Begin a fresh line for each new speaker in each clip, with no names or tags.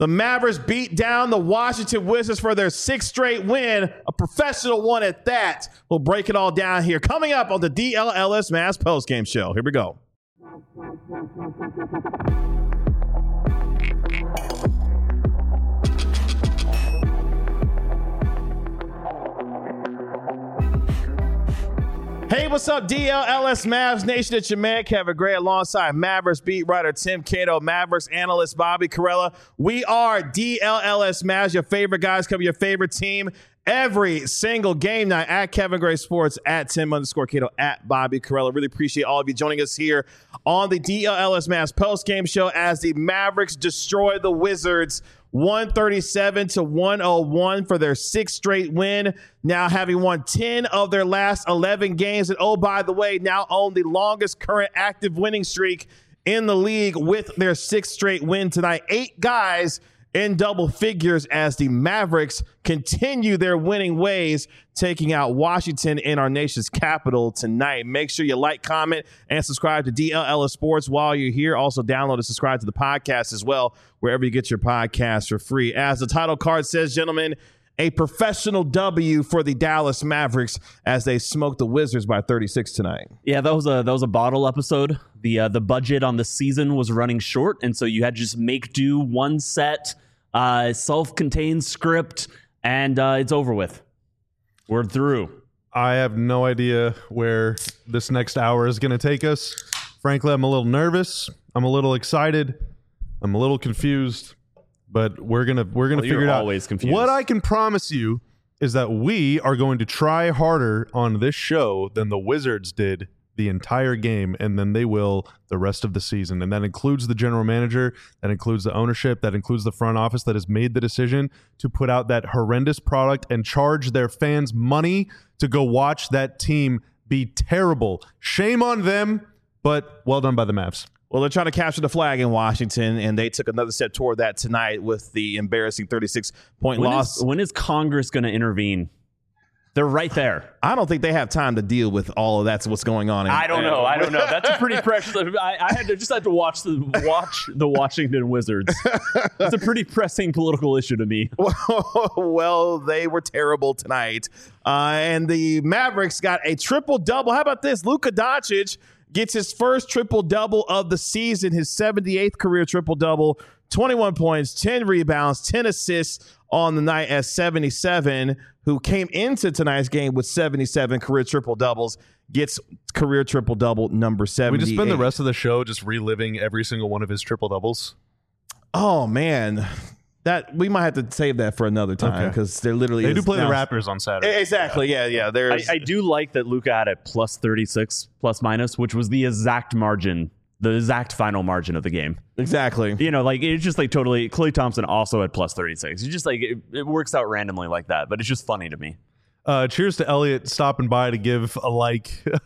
The Mavericks beat down the Washington Wizards for their 6th straight win, a professional one at that. We'll break it all down here. Coming up on the DLLS Mavs postgame show. Here we go. Hey, what's up, DLLS Mavs Nation? It's your man, Kevin Gray, alongside Mavericks beat writer Tim Cato, Mavericks analyst Bobby Carella. We are DLLS Mavs, your favorite guys, cover your favorite team every single game night at Kevin Gray Sports, at Tim_Cato, at Bobby Carella. Really appreciate all of you joining us here on the DLLS Mavs post-game show as the Mavericks destroy the Wizards 137-101 for their 6th straight win, now having won 10 of their last 11 games. And oh, by the way, now own the longest current active winning streak in the league with their 6th straight win tonight. 8 guys in double figures as the Mavericks continue their winning ways, taking out Washington in our nation's capital tonight. Make sure you like, comment, and subscribe to DLLS Sports while you're here. Also, download and subscribe to the podcast as well, wherever you get your podcasts for free. As the title card says, gentlemen, a professional W for the Dallas Mavericks as they smoked the Wizards by 36 tonight.
Yeah, that was a bottle episode. The budget on the season was running short, and so you had to just make do one set, self-contained script, and it's over with. We're through.
I have no idea where this next hour is going to take us. Frankly, I'm a little nervous. I'm a little excited. I'm a little confused. But we're gonna figure it out.
Always confused.
What I can promise you is that we are going to try harder on this show than the Wizards did the entire game, and then they will the rest of the season. And that includes the general manager, that includes the ownership, that includes the front office that has made the decision to put out that horrendous product and charge their fans money to go watch that team be terrible. Shame on them, but well done by the Mavs.
Well, they're trying to capture the flag in Washington, and they took another step toward that tonight with the embarrassing 36-point loss.
When is Congress going to intervene? They're right there.
I don't think they have time to deal with all of that's what's going on.
I don't know. That's a pretty precious. I had to watch the Washington Wizards. It's a pretty pressing political issue to me.
Well, they were terrible tonight, and the Mavericks got a triple-double. How about this? Luka Doncic gets his first triple-double of the season, his 78th career triple-double, 21 points, 10 rebounds, 10 assists on the night as 77, who came into tonight's game with 77 career triple-doubles, gets career triple-double number 78.
We just spend the rest of the show just reliving every single one of his triple-doubles.
Oh, man. That we might have to save that for another time because they're literally
they do play the Raptors on Saturday.
Exactly, yeah.
I do like that Luka had a plus 36 plus minus, which was the exact margin, the exact final margin of the game.
Exactly.
You know, like it's just like totally. Klay Thompson also had plus 36. It's just like it works out randomly like that, but it's just funny to me.
Cheers to Elliot stopping by to give a like.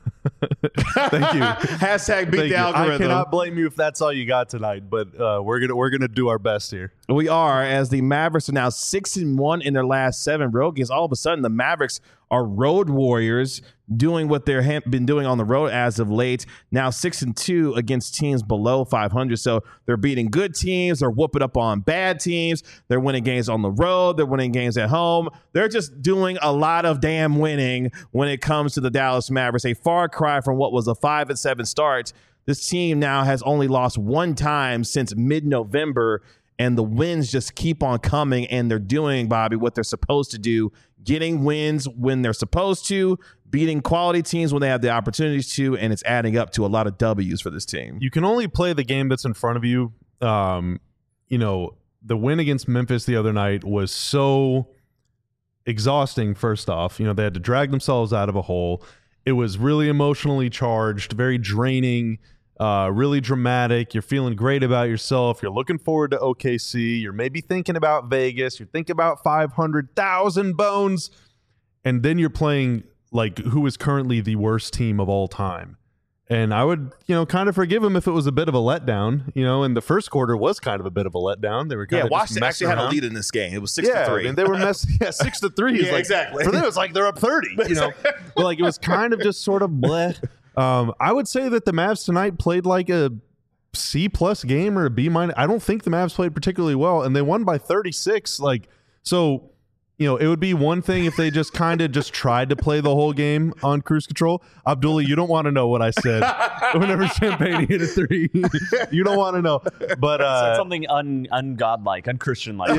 Thank you.
Hashtag beat the algorithm.
I cannot blame you if that's all you got tonight, but we're gonna do our best here.
We are, as the Mavericks are now 6-1 in their last 7 road games. All of a sudden, the Mavericks are road warriors, doing what they've been doing on the road as of late. Now 6-2 against teams below 500. So they're beating good teams. They're whooping up on bad teams. They're winning games on the road. They're winning games at home. They're just doing a lot of damn winning when it comes to the Dallas Mavericks. A far cry from what was a 5-7 start. This team now has only lost 1 time since mid-November, and the wins just keep on coming, and they're doing, Bobby, what they're supposed to do, getting wins when they're supposed to, beating quality teams when they have the opportunities to, and it's adding up to a lot of W's for this team.
You can only play the game that's in front of you. You know, the win against Memphis the other night was so exhausting, first off. You know, they had to drag themselves out of a hole. It was really emotionally charged, very draining, really dramatic. You're feeling great about yourself. You're looking forward to OKC. You're maybe thinking about Vegas. You're thinking about 500,000 bones. And then you're playing like who is currently the worst team of all time. And I would, kind of forgive them if it was a bit of a letdown, and the first quarter was kind of a bit of a letdown. They were kind of
Washington actually had a lead in this game. It was 6-3.
And they were 6-3.
Yeah, exactly.
For them, it was like they're up 30, But like it was kind of just sort of bleh. I would say that the Mavs tonight played like a C+ game or a B-. I don't think the Mavs played particularly well, and they won by 36. So, it would be one thing if they just kind of just tried to play the whole game on cruise control. Abdullah, you don't want to know what I said whenever Champagne hit a three. You don't want to know. But
said something ungodlike, unchristian-like.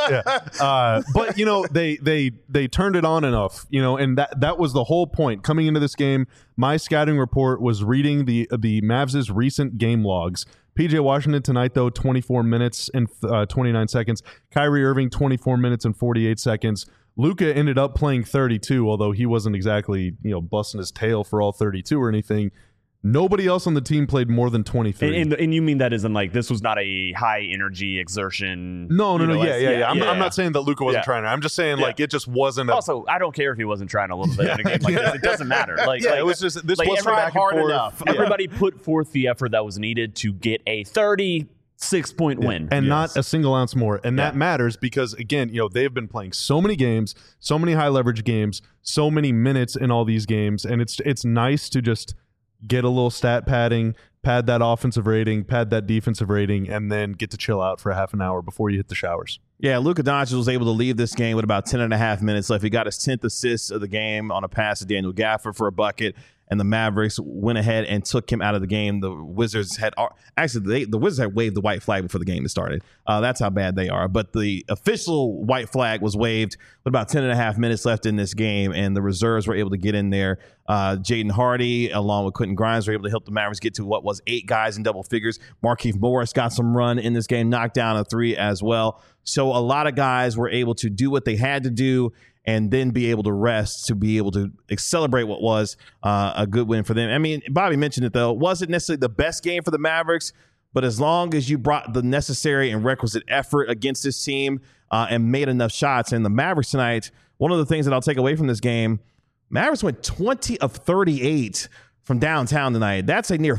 Yeah. But they turned it on enough, and that was the whole point. Coming into this game, my scouting report was reading the Mavs' recent game logs. PJ Washington tonight, though, 24 minutes and 29 seconds. Kyrie Irving, 24 minutes and 48 seconds. Luka ended up playing 32, although he wasn't exactly, busting his tail for all 32 or anything. Nobody else on the team played more than 23.
And you mean that isn't like this was not a high energy exertion?
No. Yeah. I'm not saying that Luka wasn't trying. I'm just saying it just wasn't.
Also, I don't care if he wasn't trying a little bit in a game like this. It doesn't matter.
It was just this wasn't back and
hard
forth
enough.
Everybody put forth the effort that was needed to get a 36-point win,
and not a single ounce more. And that matters because again, they've been playing so many games, so many high leverage games, so many minutes in all these games, and it's nice to just get a little stat padding, pad that offensive rating, pad that defensive rating, and then get to chill out for a half an hour before you hit the showers.
Yeah, Luka Doncic was able to leave this game with about 10 and a half minutes left. He got his 10th assist of the game on a pass to Daniel Gafford for a bucket, and the Mavericks went ahead and took him out of the game. The Wizards had the Wizards had waved the white flag before the game started. That's how bad they are. But the official white flag was waved with about 10 and a half minutes left in this game, and the reserves were able to get in there. Jaden Hardy, along with Quentin Grimes, were able to help the Mavericks get to what was 8 guys in double figures. Markieff Morris got some run in this game, knocked down a 3 as well. So a lot of guys were able to do what they had to do and then be able to rest to be able to celebrate what was a good win for them. I mean, Bobby mentioned it, though. It wasn't necessarily the best game for the Mavericks, but as long as you brought the necessary and requisite effort against this team and made enough shots, and the Mavericks tonight, one of the things that I'll take away from this game, Mavericks went 20 of 38 from downtown tonight. That's a near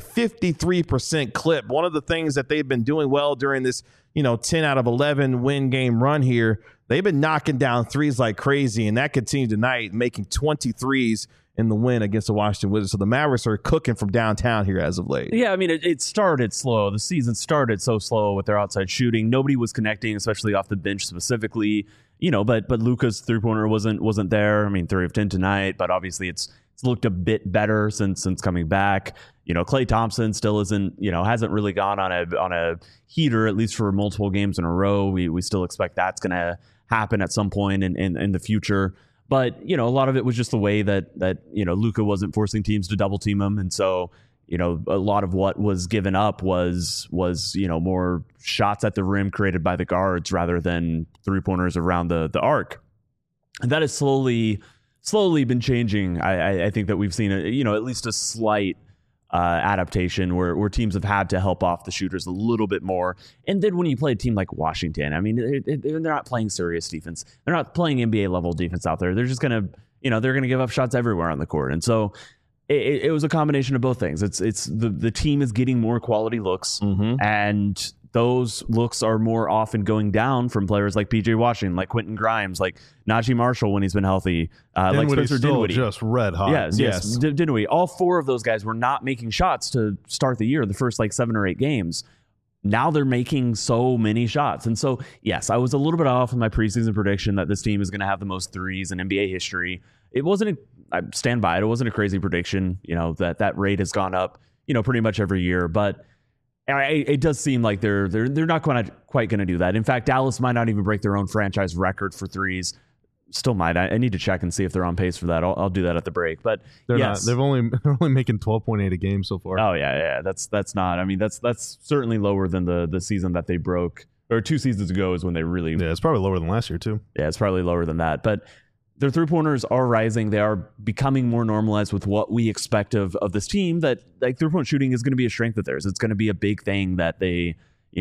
53% clip. One of the things that they've been doing well during this 10 out of 11 win game run here, they've been knocking down threes like crazy, and that continued tonight, making 23s in the win against the Washington Wizards. So the Mavericks are cooking from downtown here as of late.
Yeah, I mean, it started slow. The season started so slow with their outside shooting. Nobody was connecting, especially off the bench specifically. But Luka's three-pointer wasn't there. I mean, 3 of 10 tonight, but obviously it's looked a bit better since coming back. Klay Thompson still isn't, hasn't really gone on a heater, at least for multiple games in a row. We still expect that's going to happen at some point in the future. But, a lot of it was just the way that Luka wasn't forcing teams to double team him. And so, a lot of what was given up was more shots at the rim created by the guards rather than 3-pointers around the arc. And that has slowly been changing. I think that we've seen at least a slight adaptation where teams have had to help off the shooters a little bit more. And then when you play a team like Washington, I mean, they're not playing serious defense. They're not playing NBA level defense out there. They're just going to, they're going to give up shots everywhere on the court. And so it was a combination of both things. It's the team is getting more quality looks, and those looks are more often going down from players like PJ Washington, like Quentin Grimes, like Najee Marshall when he's been healthy, like Spencer Dinwiddie.
Just red hot.
Yes. Dinwiddie. All 4 of those guys were not making shots to start the year, the first 7 or 8 games. Now they're making so many shots. And so, yes, I was a little bit off in my preseason prediction that this team is going to have the most threes in NBA history. It wasn't, I stand by it. It wasn't a crazy prediction, that rate has gone up, pretty much every year. But it does seem like they're not quite going to do that. In fact, Dallas might not even break their own franchise record for threes. Still might. I need to check and see if they're on pace for that. I'll do that at the break. But
they're
yes.
not. They're only making 12.8 a game so far.
Oh yeah. That's not. I mean, that's certainly lower than the season that they broke, or 2 seasons ago is when they really.
Yeah, it's probably lower than last year too.
Yeah, it's probably lower than that. But their 3-pointers are rising. They are becoming more normalized with what we expect of this team. That 3-point shooting is going to be a strength of theirs. It's going to be a big thing that they,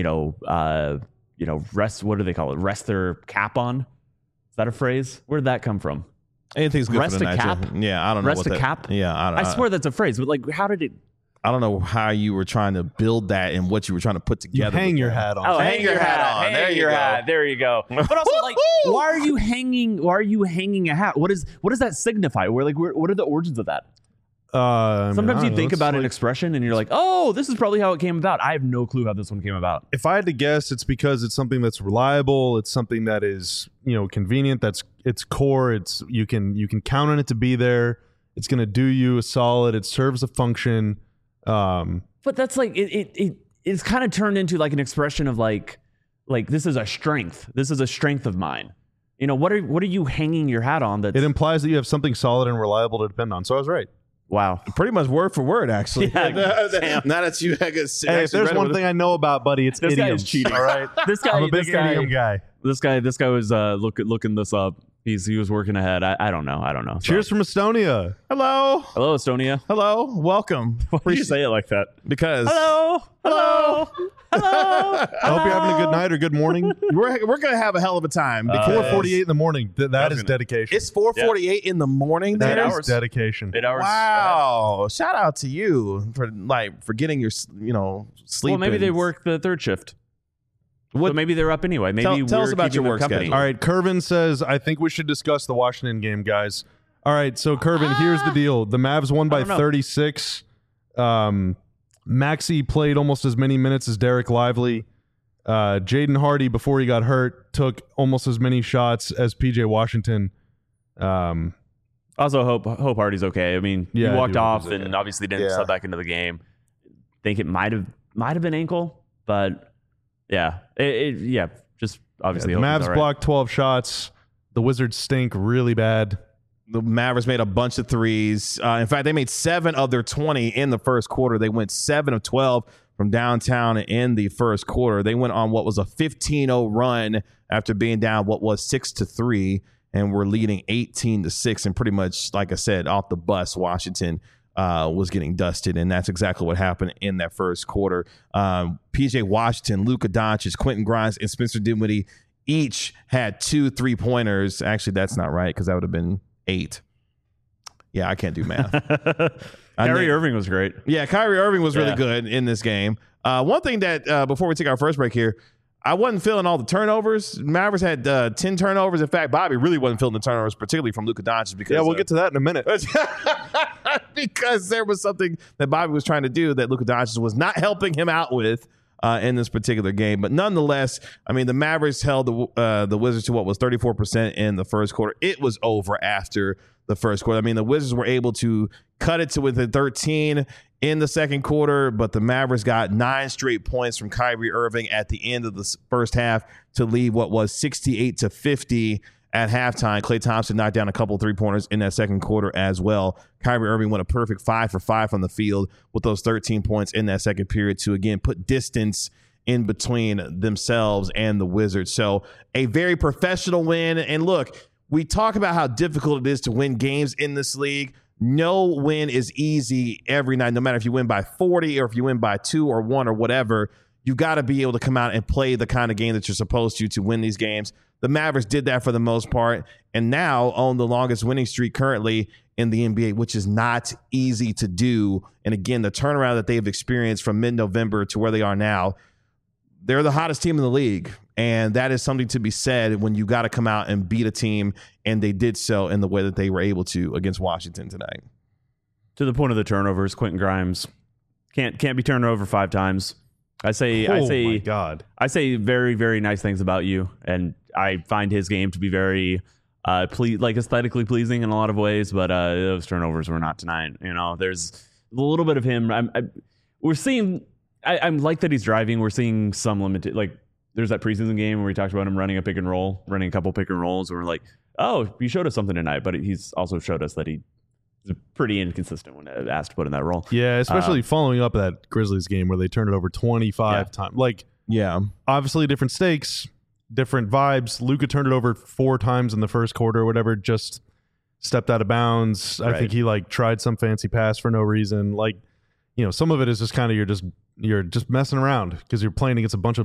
rest. What do they call it? Rest their cap on. Is that a phrase? Where did that come from?
Anything's good
Rest
for the
a
night.
cap?
Yeah, I don't know.
Rest a cap?
Yeah,
I swear that's a phrase. But how did it?
I don't know how you were trying to build that and what you were trying to put together.
You hang your hat on.
Oh, hang your hat on. There you go. There you go. But also, why are you hanging? Why are you hanging a hat? What does that signify? What are the origins of that? Sometimes you think about an expression and you're like, oh, this is probably how it came about. I have no clue how this one came about.
If I had to guess, it's because it's something that's reliable. It's something that is, convenient. It's core. You can count on it to be there. It's going to do you a solid. It serves a function.
But that's like it's kind of turned into like an expression of like this is a strength. This is a strength of mine. What are you hanging your hat on? That
it implies that you have something solid and reliable to depend on. So I was right.
Wow.
Pretty much word for word, actually.
Yeah,
now that you
hey, if there's one thing I know about, buddy, it's
this
idioms.
Guy is cheating.
All right.
I'm
a big idiom guy.
This guy was looking this up. He was working ahead. I don't know.
Cheers from Estonia.
Hello,
Estonia.
Hello, welcome.
Why do you say it like that?
Because
hello.
I hope you're having a good night or good morning.
we're gonna have a hell of a time.
4:48 in the morning. That is dedication.
It's 4:48 in the morning.
That
there?
is dedication.
8 hours.
Wow! Shout out to you for getting your sleep.
Well, maybe
in.
they work the third shift. So maybe they're up anyway. Maybe
tell us
we're
about your
keeping
work
them company.
schedule.
All right, Curvin says, I think we should discuss the Washington game, guys. All right, so Curvin, here's the deal. The Mavs won by 36. Maxey played almost as many minutes as Derek Lively. Jaden Hardy, before he got hurt, took almost as many shots as PJ Washington.
Also, hope Hardy's okay. I mean, he walked off and obviously didn't sub back into the game. Think it might have been ankle, but yeah, just obviously.
The Mavs blocked 12 shots. The Wizards stink really bad.
The Mavericks made a bunch of threes. In fact, they made 7 of their 20 in the first quarter. They went 7 of 12 from downtown in the first quarter. They went on what was a 15-0 run after being down what was 6-3, and were leading 18-6. And pretty much, like I said, off the bus, Washington was getting dusted, and that's exactly what happened in that first quarter. PJ Washington, Luka Doncic, Quentin Grimes, and Spencer Dinwiddie each had 2 3-pointers. Actually, that's not right because that would have been 8. Yeah, I can't do math.
Kyrie Irving was great.
Yeah, Kyrie Irving was really good in this game. One thing that before we take our first break here, I wasn't feeling all the turnovers. Mavericks had 10 turnovers. In fact, Bobby really wasn't feeling the turnovers, particularly from Luka Doncic. Because
we'll get to that in a minute.
Because there was something that Bobby was trying to do that Luka Doncic was not helping him out with in this particular game. But nonetheless, I mean, the Mavericks held the Wizards to what was 34% in the first quarter. It was over after the first quarter. I mean, the Wizards were able to cut it to within 13 in the second quarter, but the Mavericks got 9 straight points from Kyrie Irving at the end of the first half to lead what was 68-50 at halftime. Klay Thompson knocked down a couple 3-pointers in that second quarter as well. Kyrie Irving went a perfect 5 for 5 from the field with those 13 points in that second period to, again, put distance in between themselves and the Wizards. So a very professional win. And look, we talk about how difficult it is to win games in this league. No win is easy every night, no matter if you win by 40 or if you win by 2 or 1 or whatever. You got to be able to come out and play the kind of game that you're supposed to win these games. The Mavericks did that for the most part and now own the longest winning streak currently in the NBA, which is not easy to do. And again, the turnaround that they've experienced from mid-November to where they are now, they're the hottest team in the league. And that is something to be said when you got to come out and beat a team. And they did so in the way that they were able to against Washington tonight.
To the point of the turnovers, Quentin Grimes can't be turned over 5 times. I say
my God.
I say very, very nice things about you. And I find his game to be very aesthetically pleasing in a lot of ways, but those turnovers were not tonight. There's a little bit of him. We're seeing. I'm like that he's driving. We're seeing some limited. Like there's that preseason game where we talked about him running a couple pick and rolls. Where we're like, oh, he showed us something tonight, but he's also showed us that he's pretty inconsistent when asked to put in that role.
Yeah, especially following up that Grizzlies game where they turned it over 25 times. Obviously different stakes. Different vibes. Luka turned it over 4 times in the first quarter or whatever, just stepped out of bounds. Right. I think he tried some fancy pass for no reason. Some of it is just kind of you're just messing around because you're playing against a bunch of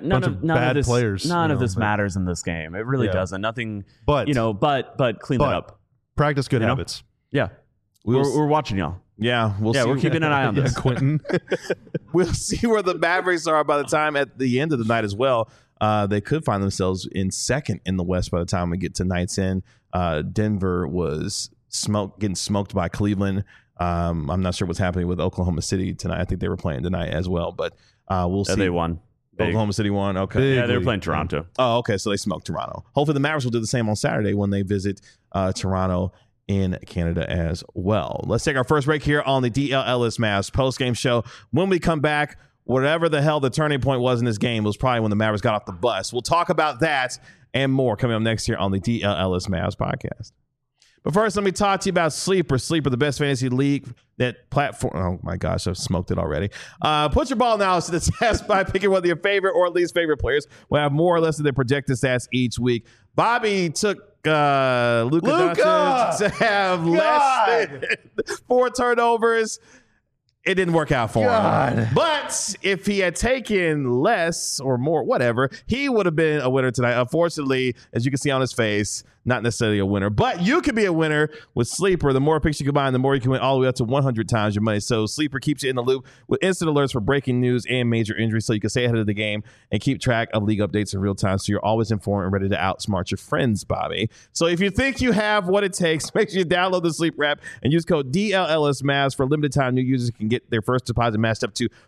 bad players.
None of this matters in this game. It really doesn't. Nothing. But clean that up.
Practice good habits.
Yeah. We're watching y'all.
Yeah, we're
keeping an eye on this.
Quentin.
We'll see where the Mavericks are by the time at the end of the night as well. They could find themselves in second in the West by the time we get to night's end. Denver was getting smoked by Cleveland. I'm not sure what's happening with Oklahoma City tonight. I think they were playing tonight as well, but we'll see.
They won. Big.
Oklahoma City won. Okay.
Big.
Yeah, they were playing Toronto.
Oh, okay. So they smoked Toronto. Hopefully the Mavericks will do the same on Saturday when they visit Toronto in Canada as well. Let's take our first break here on the DL Ellis Mavs post-game show. When we come back, whatever the hell the turning point was in this game was probably when the Mavericks got off the bus. We'll talk about that and more coming up next year on the DL Ellis Mavs podcast. But first, let me talk to you about Sleeper. Sleeper, the best fantasy league that platform. Oh my gosh, I've smoked it already. Put your ball analysis to the test by picking one of your favorite or least favorite players. We'll have more or less of their projected stats each week. Bobby took Luka Doncic to have less than 4 turnovers. It didn't work out for him. But if he had taken less or more, whatever, he would have been a winner tonight. Unfortunately, as you can see on his face, not necessarily a winner. But you can be a winner with Sleeper. The more picks you combine, the more you can win, all the way up to 100 times your money. So Sleeper keeps you in the loop with instant alerts for breaking news and major injuries, so you can stay ahead of the game and keep track of league updates in real time, so you're always informed and ready to outsmart your friends, Bobby. So if you think you have what it takes, make sure you download the Sleeper app and use code DLLSMAVS. For a limited time, new users can get their first deposit matched up to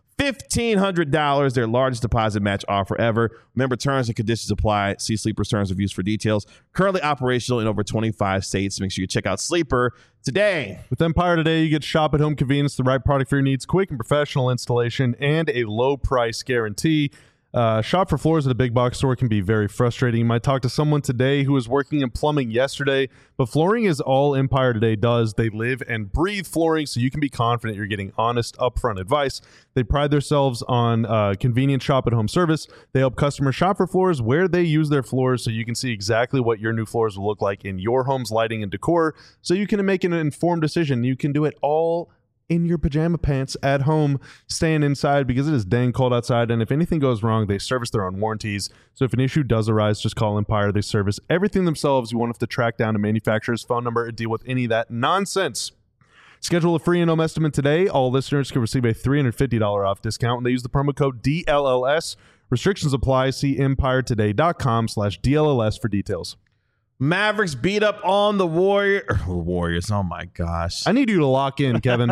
$1,500, their largest deposit match offer ever. Remember, terms and conditions apply. See Sleeper's terms of use for details. Currently operational in over 25 states. Make sure you check out Sleeper today.
With Empire Today, you get shop at home convenience, the right product for your needs, quick and professional installation, and a low price guarantee. Shop for floors at a big box store can be very frustrating. You might talk to someone today who was working in plumbing yesterday, but flooring is all Empire Today does. They live and breathe flooring, so you can be confident you're getting honest, upfront advice. They pride themselves on convenient shop-at-home service. They help customers shop for floors where they use their floors, so you can see exactly what your new floors will look like in your home's lighting and decor, so you can make an informed decision. You can do it all in your pajama pants at home, staying inside because it is dang cold outside. And if anything goes wrong, they service their own warranties. So if an issue does arise, just call Empire. They service everything themselves. You won't have to track down a manufacturer's phone number and deal with any of that nonsense. Schedule a free in-home estimate today. All listeners can receive a $350 off discount when they use the promo code DLLS. Restrictions apply. See EmpireToday.com/DLLS for details.
Mavericks beat up on the Warriors. Oh my gosh.
I need you to lock in, Kevin.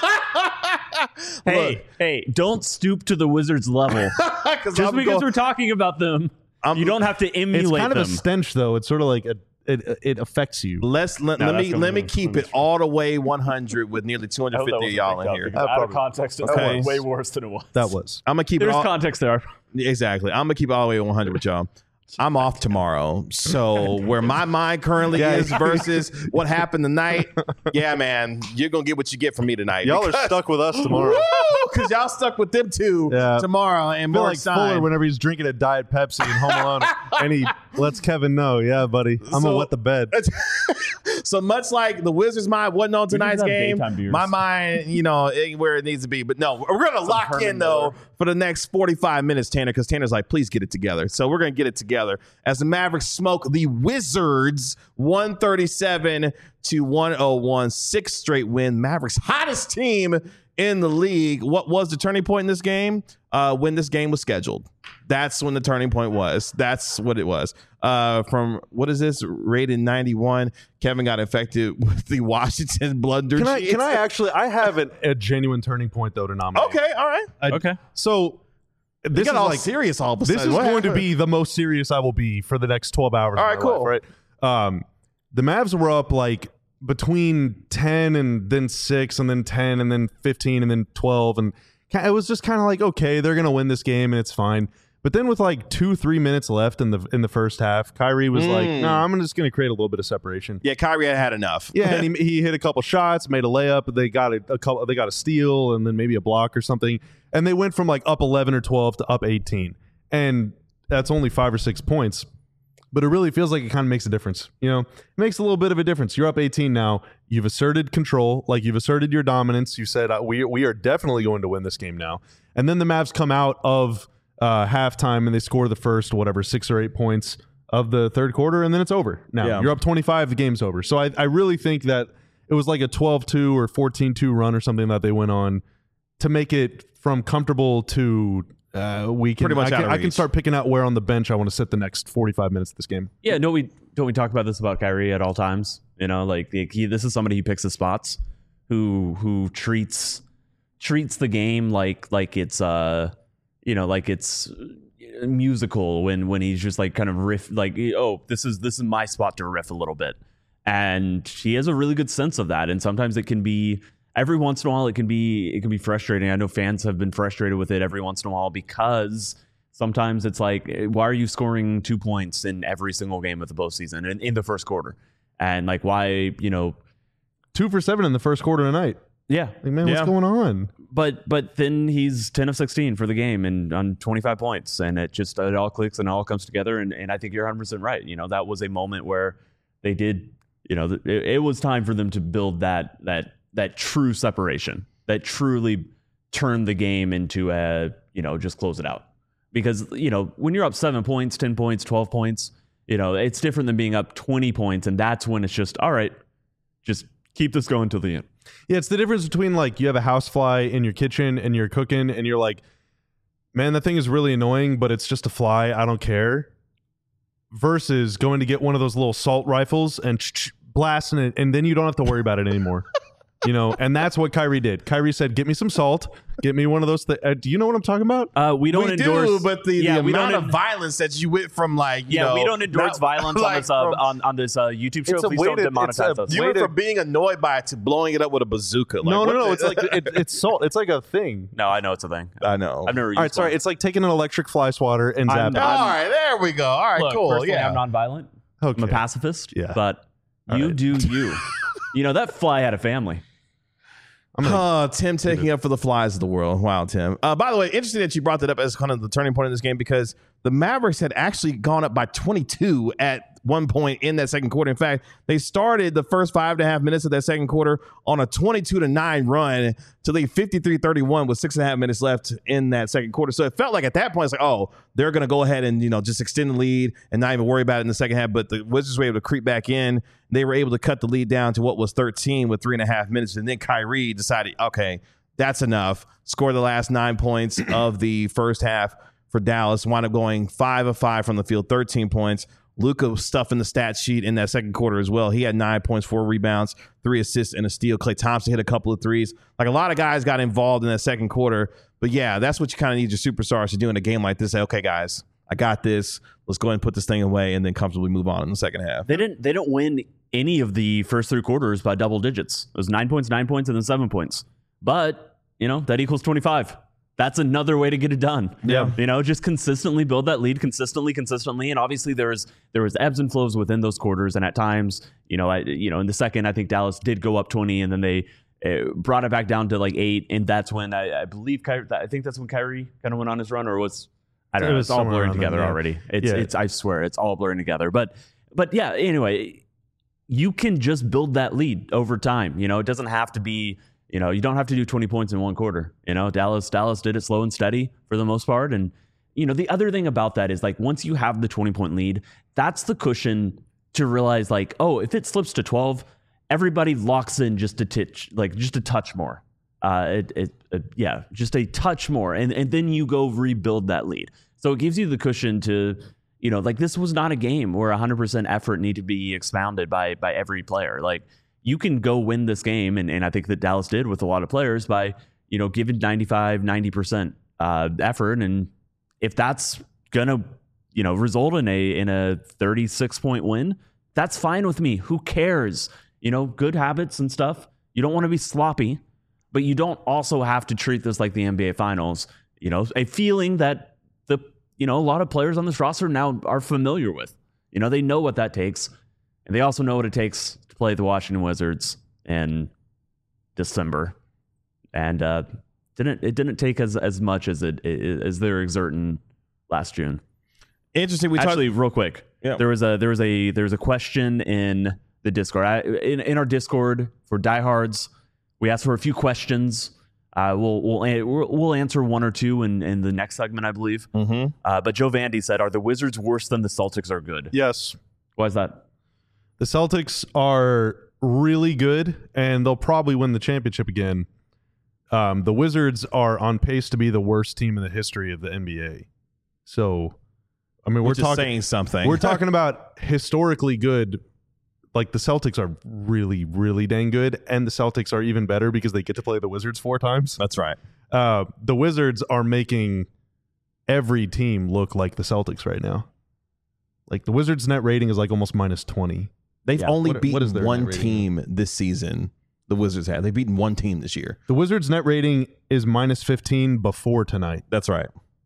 Hey, don't stoop to the Wizards level. Just because we're talking about them, you don't have to emulate them.
It's kind of a stench, though. It's sort of like it affects you.
Let me keep it all the way 100 with nearly 250 of y'all in here.
Out of context, it's way worse than it was.
That was.
I'm gonna keep
There's
it all
context there.
Exactly. I'm gonna keep it all the way 100 with y'all. I'm off tomorrow. So where my mind currently is versus what happened tonight, yeah, man, you're going to get what you get from me tonight.
Y'all are stuck with us tomorrow.
Because y'all stuck with them two tomorrow. And
I feel
more
like Fuller whenever he's drinking a Diet Pepsi in Home Alone and he lets Kevin know, yeah, buddy, I'm going to wet the bed.
So much like the Wizards' mind wasn't on tonight's game, my mind, ain't where it needs to be. But no, we're going to lock in, though, for the next 45 minutes, Tanner, because Tanner's like, please get it together. So we're going to get it together as the Mavericks smoke the Wizards 137-101, 6th straight win. Mavericks hottest team in the league. What was the turning point in this game? When this game was scheduled. That's when the turning point was. That's what it was. From, what is this? Rated 91. Kevin got infected with the Washington blunder.
Can I actually, I have a genuine turning point, though, to nominate.
Okay, all right.
Okay.
So this
got
is
all
like
serious all of a sudden.
This is going to be the most serious I will be for the next 12 hours.
All right, cool.
Life, right? The Mavs were up like between 10 and then 6 and then 10 and then 15 and then 12. And it was just kind of like, okay, they're going to win this game and it's fine. But then with like 2-3 minutes left in the first half, Kyrie was like, no, I'm just going to create a little bit of separation.
Yeah, Kyrie had enough.
Yeah, and he hit a couple shots, made a layup. They got a steal and then maybe a block or something. And they went from like up 11 or 12 to up 18. And that's only 5 or 6 points. But it really feels like it kind of makes a difference. It makes a little bit of a difference. You're up 18 now. You've asserted control. Like, you've asserted your dominance. You said, we are definitely going to win this game now. And then the Mavs come out of halftime and they score the first, 6 or 8 points of the third quarter. And then it's over. Now, you're up 25. The game's over. So I really think that it was like a 12-2 or 14-2 run or something that they went on to make it from comfortable to we can. Pretty much I can start picking out where on the bench I want to sit the next 45 minutes of this game.
Yeah, don't we talk about this about Kyrie at all times? This is somebody he picks his spots. who treats the game like it's like it's musical when he's just like kind of riff, like, oh, this is my spot to riff a little bit. And he has a really good sense of that. And sometimes it can be, every once in a while, it can be frustrating. I know fans have been frustrated with it every once in a while because sometimes it's like, why are you scoring 2 points in every single game of the postseason and in the first quarter? And like, why,
2 for 7 in the first quarter tonight.
Yeah.
Like, man, what's going on?
But then he's 10 of 16 for the game and on 25 points. And it all clicks and it all comes together. And I think you're 100% right. That was a moment where they did, it was time for them to build that true separation, that truly turned the game into just close it out. Because, when you're up 7 points, 10 points, 12 points, it's different than being up 20 points. And that's when it's just, all right, just keep this going till the end.
Yeah, it's the difference between like you have a housefly in your kitchen and you're cooking and you're like, man, that thing is really annoying, but it's just a fly. I don't care. Versus going to get one of those little salt rifles and blasting it, and then you don't have to worry about it anymore. And that's what Kyrie did. Kyrie said, get me some salt. Get me one of those. Do you know what I'm talking about?
We don't endorse.
But the amount of violence that you went from
we don't endorse violence on this YouTube show. Please don't demonetize us.
You went from being annoyed by it to blowing it up with a bazooka. Like,
no. It's like it's salt. It's like a thing.
No, I know it's a thing.
I know.
I've never used
All right, sorry. It's like taking an electric fly swatter and zapping.
All right, there we go. All right,
look,
cool.
Personally,
Yeah,
I'm nonviolent.
Okay.
I'm a pacifist.
Yeah.
But you do you. That fly had a family.
Tim taking up for the flies of the world. Wow, Tim. By the way, interesting that you brought that up as kind of the turning point in this game because the Mavericks had actually gone up by 22 at one point in that second quarter. In fact, they started the first 5.5 minutes of that second quarter on a 22-9 run to lead 53-31 with 6.5 minutes left in that second quarter. So it felt like at that point, it's like, oh, they're going to go ahead and, just extend the lead and not even worry about it in the second half. But the Wizards were able to creep back in. They were able to cut the lead down to what was 13 with 3.5 minutes. And then Kyrie decided, okay, that's enough. Scored the last 9 points of the first half for Dallas. Wound up going 5 of 5 from the field, 13 points. Luka was stuffing the stat sheet in that second quarter as well. He had 9 points, 4 rebounds, 3 assists, and a steal. Klay Thompson hit a couple of threes. Like, a lot of guys got involved in that second quarter. But, yeah, that's what you kind of need your superstars to do in a game like this. Say, okay, guys, I got this. Let's go ahead and put this thing away and then comfortably move on in the second half.
They didn't win any of the first 3 quarters by double digits. It was 9 points, 9 points, and then 7 points. But, that equals 25. That's another way to get it done.
Yeah.
Just consistently build that lead consistently. And obviously there was ebbs and flows within those quarters. And at times, in the second, I think Dallas did go up 20 and then they brought it back down to like 8. And that's when I believe that's when Kyrie kind of went on his run, or was, I don't know. It's all blurring together already. It's I swear it's all blurring together. But yeah, anyway, you can just build that lead over time. It doesn't have to be, you don't have to do 20 points in one quarter. Dallas did it slow and steady for the most part. And, the other thing about that is, like, once you have the 20-point lead, that's the cushion to realize, like, oh, if it slips to 12, everybody locks in just a touch more. Just a touch more. And then you go rebuild that lead. So it gives you the cushion to, this was not a game where 100% effort needed to be expounded by every player. Like, you can go win this game, and I think that Dallas did with a lot of players by, giving 95, 90% effort. And if that's gonna, result in a 36-point win, that's fine with me. Who cares? Good habits and stuff. You don't want to be sloppy, but you don't also have to treat this like the NBA Finals. A feeling that a lot of players on this roster now are familiar with. They know what that takes, and they also know what it takes to play the Washington Wizards in December. And it didn't take as much as they're exerting last June.
Interesting.
Real quick,
yeah.
There was a question in the Discord. In our Discord for diehards, we asked for a few questions. We'll answer one or two in the next segment, I believe.
Mm-hmm.
But Joe Vandy said, "Are the Wizards worse than the Celtics are good?"
Yes.
Why is that?
The Celtics are really good, and they'll probably win the championship again. The Wizards are on pace to be the worst team in the history of the NBA. So, I mean,
we're talking saying something.
We're talking about historically good like the Celtics are really, really dang good, and the Celtics are even better because they get to play the Wizards 4 times.
That's right.
The Wizards are making every team look like the Celtics right now. Like the Wizards' net rating is like almost -20.
They've only
what is
beaten
their
one
net rating?
team this season. The Wizards have. They've beaten one team this year.
The Wizards' net rating is -15 before tonight.
That's right.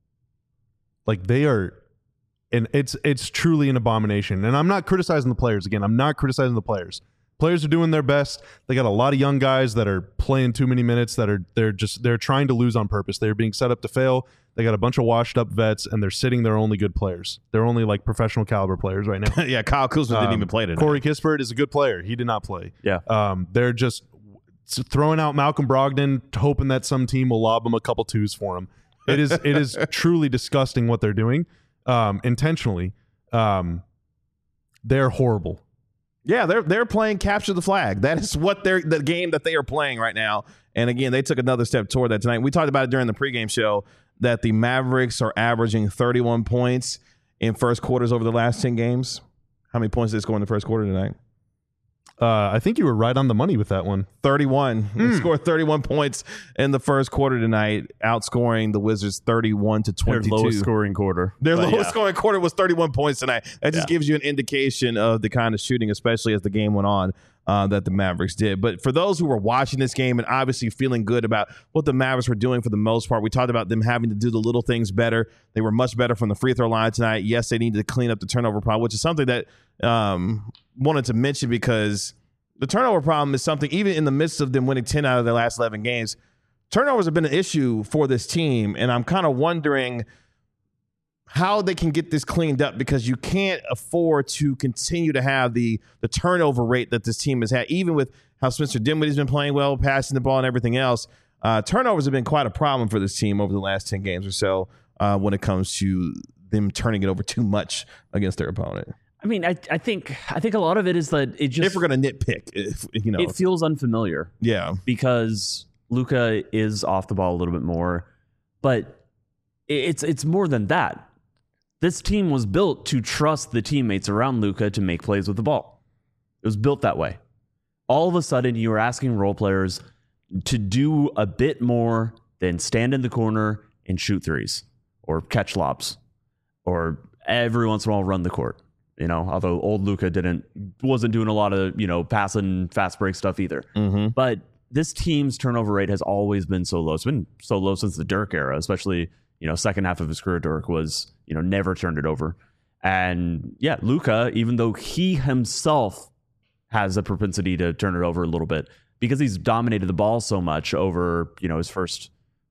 Like they are, and it's truly an abomination. And I'm not criticizing the players. Again, I'm not criticizing the players. Players are doing their best. They got a lot of young guys that are playing too many minutes they're trying to lose on purpose. They're being set up to fail. They got a bunch of washed up vets, and they're sitting their only good players. They're only like professional caliber players right now.
Yeah, Kyle Kuzma didn't even play today.
Corey Kispert is a good player. He did not play.
Yeah.
They're just throwing out Malcolm Brogdon, hoping that some team will lob him a couple twos for him. It is truly disgusting what they're doing, intentionally. They're horrible.
Yeah, they're playing capture the flag. That is what the game that they are playing right now. And again, they took another step toward that tonight. We talked about it during the pregame show that the Mavericks are averaging 31 points in first quarters over the last 10 games. How many points did they score in the first quarter tonight?
I think you were right on the money with that one.
31. They scored 31 points in the first quarter tonight, outscoring the Wizards 31-22.
Their lowest scoring quarter.
Their
But
lowest
yeah.
scoring quarter was 31 points tonight. That just
Yeah.
gives you an indication of the kind of shooting, especially as the game went on, that the Mavericks did. But for those who were watching this game and obviously feeling good about what the Mavericks were doing for the most part, we talked about them having to do the little things better. They were much better from the free throw line tonight. Yes, they needed to clean up the turnover problem, which is something that wanted to mention because the turnover problem is something, even in the midst of them winning 10 out of their last 11 games, turnovers have been an issue for this team. And I'm kind of wondering how they can get this cleaned up because you can't afford to continue to have the turnover rate that this team has had, even with how Spencer Dinwiddie's been playing well, passing the ball and everything else. Turnovers have been quite a problem for this team over the last 10 games or so when it comes to them turning it over too much against their opponent.
I mean, I think a lot of it is that it just
If we're going to nitpick,
it feels unfamiliar
yeah.
because Luka is off the ball a little bit more, but it's more than that. This team was built to trust the teammates around Luka to make plays with the ball. It was built that way. All of a sudden, you are asking role players to do a bit more than stand in the corner and shoot threes or catch lobs or every once in a while run the court. Although old Luka wasn't doing a lot of, passing fast break stuff either.
Mm-hmm.
But this team's turnover rate has always been so low. It's been so low since the Dirk era, especially, second half of his career. Dirk was, never turned it over. And yeah, Luka, even though he himself has a propensity to turn it over a little bit because he's dominated the ball so much over, his first,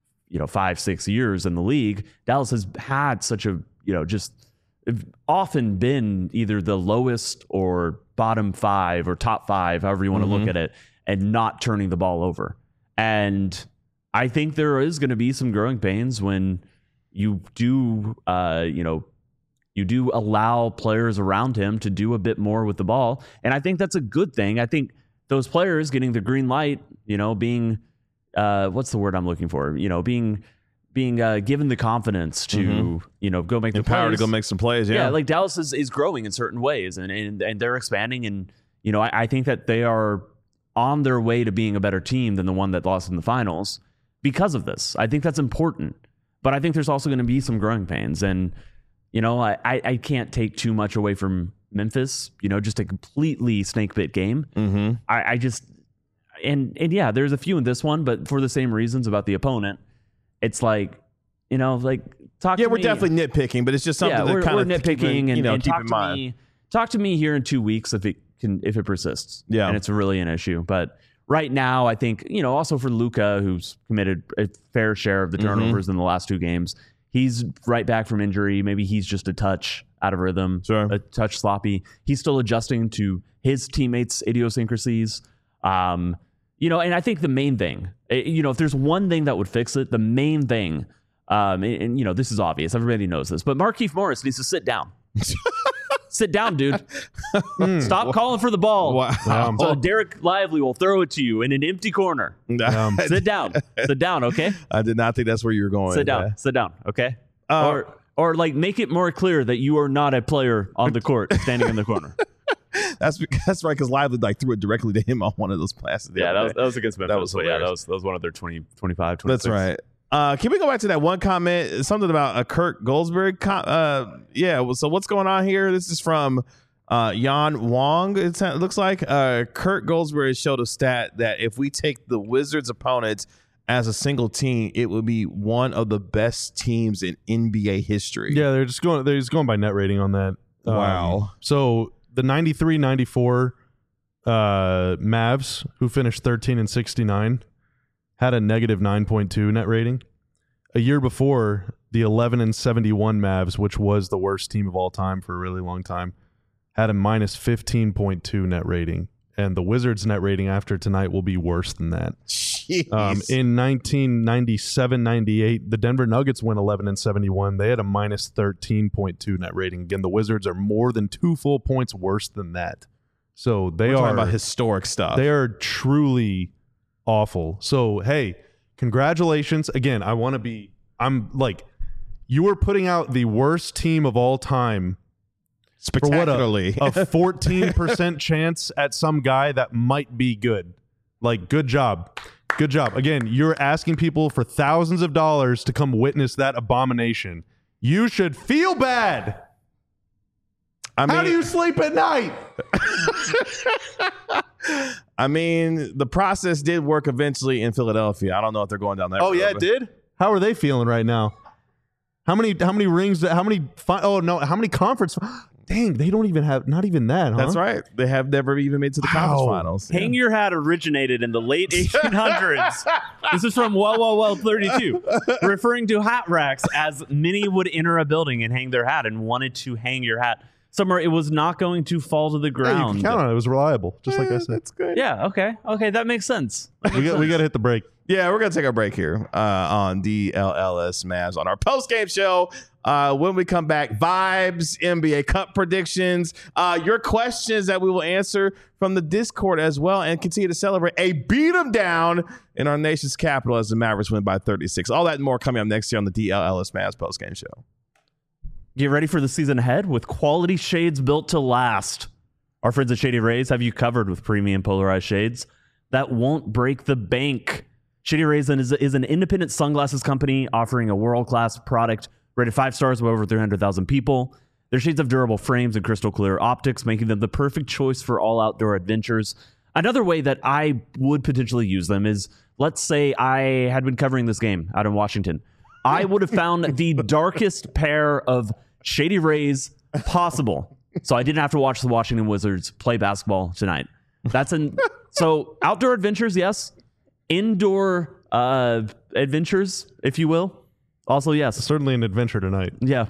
5-6 years in the league, Dallas has had such a, just often been either the lowest or bottom 5 or top 5, however you want to look at it, and not turning the ball over. And I think there is going to be some growing pains when you do, you do allow players around him to do a bit more with the ball. And I think that's a good thing. I think those players getting the green light, being, what's the word I'm looking for? Being given the confidence to, go make the
Empowered
plays.
to go make some plays.
Yeah, like Dallas is growing in certain ways and they're expanding. And, I think that they are on their way to being a better team than the one that lost in the finals because of this. I think that's important. But I think there's also going to be some growing pains. And, I can't take too much away from Memphis, just a completely snake bit game.
Mm-hmm.
I just, and yeah, there's a few in this one, but for the same reasons about the opponent. It's like, talk to me.
Yeah, we're definitely nitpicking, but it's just something
we're
that kind of
nitpicking and
keep
talk
in
to
mind.
Talk to me here in 2 weeks if it persists.
Yeah.
And it's really an issue. But right now, I think, also for Luka, who's committed a fair share of the turnovers in the last 2 games, he's right back from injury. Maybe he's just a touch out of rhythm, a touch sloppy. He's still adjusting to his teammates' idiosyncrasies. And I think the main thing, if there's one thing that would fix it, the main thing, and this is obvious, everybody knows this, but Markieff Morris needs to sit down. Sit down, dude. Stop calling for the ball.
Wow.
So Derek Lively will throw it to you in an empty corner. Sit down. Sit down, okay?
I did not think that's where you were going.
Sit down. Sit down, okay? Or make it more clear that you are not a player on the court standing in the corner.
That's right, because Lively like threw it directly to him on one of those passes.
That was against Memphis.
That was hilarious.
that was one of their 25, 26.
That's right. Can we go back to that one comment? Something about a Kurt Goldsberry. So what's going on here? This is from Yan Wong. It looks like Kurt Goldsberry showed a stat that if we take the Wizards' opponents as a single team, it would be one of the best teams in NBA history.
Yeah, they're just going by net rating on that.
Wow.
So the 93-94 Mavs, who finished 13-69, had a negative 9.2 net rating. A year before, the 11-71 Mavs, which was the worst team of all time for a really long time, had a minus 15.2 net rating. And the Wizards' net rating after tonight will be worse than that. In 1997-98, the Denver Nuggets went 11-71. They had a minus 13.2 net rating. Again, the Wizards are more than 2 full points worse than that. So we're talking
about historic stuff.
They are truly awful. So, hey, congratulations. Again, you are putting out the worst team of all time.
Spectacularly.
For what, a 14% chance at some guy that might be good. Like, good job. Good job. Again, you're asking people for thousands of dollars to come witness that abomination. You should feel bad. How do you sleep at night?
I mean, the process did work eventually in Philadelphia. I don't know if they're going down that road.
Oh, yeah, it did? How are they feeling right now? How many rings, how many conference? Dang, they don't even have, not even that, huh?
That's right. They have never even made to the conference finals.
Hang Your Hat originated in the late 1800s. This is from Well 32, referring to hat racks as many would enter a building and hang their hat and wanted to hang your hat somewhere it was not going to fall to the ground.
Yeah, you can count on it. It was reliable, just like I said.
That's good.
Yeah, okay, that makes sense.
We got to hit the break.
Yeah, we're going to take our break here on DLLS Mavs on our post-game show. When we come back, vibes, NBA Cup predictions, your questions that we will answer from the Discord as well, and continue to celebrate a beat 'em down in our nation's capital as the Mavericks win by 36. All that and more coming up next year on the DLLS Mavs post-game show.
Get ready for the season ahead with quality shades built to last. Our friends at Shady Rays have you covered with premium polarized shades that won't break the bank. Shady Rays is an independent sunglasses company offering a world-class product rated 5 stars by over 300,000 people. Their shades have durable frames and crystal clear optics, making them the perfect choice for all outdoor adventures. Another way that I would potentially use them is, let's say I had been covering this game out in Washington. I would have found the darkest pair of Shady Rays possible. So I didn't have to watch the Washington Wizards play basketball tonight. So outdoor adventures, yes. Indoor adventures, if you will. Also, yes.
Certainly an adventure tonight.
Yeah.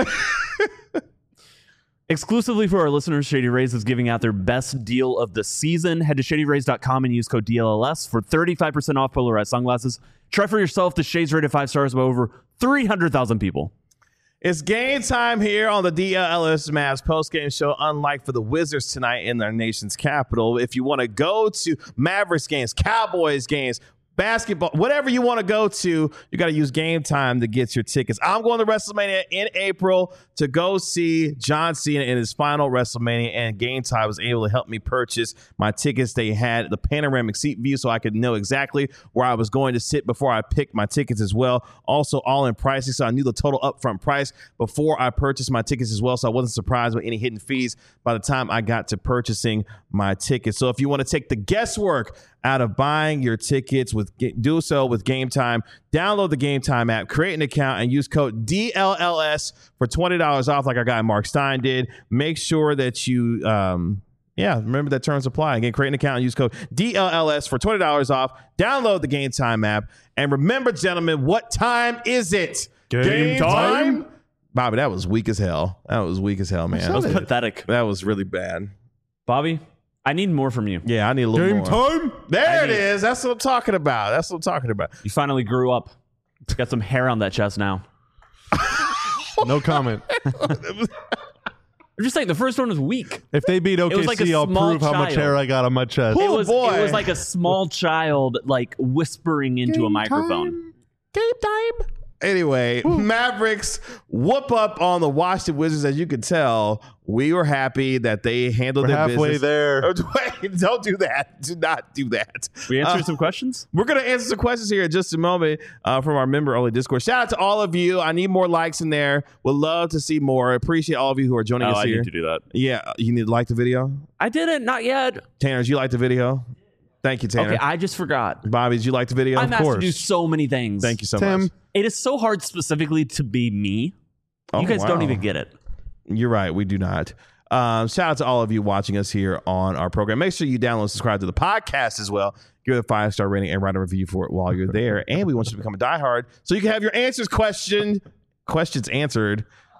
Exclusively for our listeners, Shady Rays is giving out their best deal of the season. Head to shadyrays.com and use code DLLS for 35% off polarized sunglasses. Try for yourself the shades rated 5 stars by over 300,000 people.
It's game time here on the DLLS Mavs post-game show, unlike for the Wizards tonight in their nation's capital. If you want to go to Mavericks games, Cowboys games, basketball, whatever you want to go to, you got to use Game Time to get your tickets. I'm going to WrestleMania in April to go see John Cena in his final WrestleMania, and Game Time was able to help me purchase my tickets. They had the panoramic seat view so I could know exactly where I was going to sit before I picked my tickets as well. Also, all in pricing, so I knew the total upfront price before I purchased my tickets as well, so I wasn't surprised with any hidden fees by the time I got to purchasing my tickets. So if you want to take the guesswork out of buying your tickets, do so with Game Time. Download the Game Time app, create an account, and use code DLLS for $20 off like our guy Mark Stein did. Make sure that you, remember that terms apply. Again, create an account and use code DLLS for $20 off. Download the Game Time app. And remember, gentlemen, what time is it?
Game time?
Bobby, that was weak as hell. That was weak as hell, man.
That was pathetic.
That was really bad.
Bobby, I need more from you.
Yeah, I need a little
Game
more.
time?
There it is. That's what I'm talking about.
You finally grew up. Got some hair on that chest now.
No comment.
I'm just saying, the first one was weak.
If they beat OKC,
was like a
I'll
small
prove how much
child.
hair I got on my chest.
Oh,
It was
boy.
It was like a small child, like whispering into a microphone.
Game time. Anyway, Mavericks whoop up on the Washington Wizards. As you could tell, we were happy that they handled their
halfway
business.
there.
Wait, don't do that. Do not do that.
We answered some questions.
We're going to answer some questions here in just a moment from our member-only Discord. Shout out to all of you. I need more likes in there. Would love to see more. Appreciate all of you who are joining us
I
here.
need to do that.
Yeah, you need to like the video.
I didn't. Not yet.
Tanner, did you like the video? Thank you, Tanner.
Okay, I just forgot.
Bobby, did you like the video?
I'm asked to do so many things.
Thank you so
Tim.
much.
It is so hard specifically to be me.
Oh,
You guys don't
wow.
even get it.
You're right. We do not. Shout out to all of you watching us here on our program. Make sure you download and subscribe to the podcast as well. Give it a 5-star rating and write a review for it while you're there. And we want you to become a diehard so you can have your questions answered.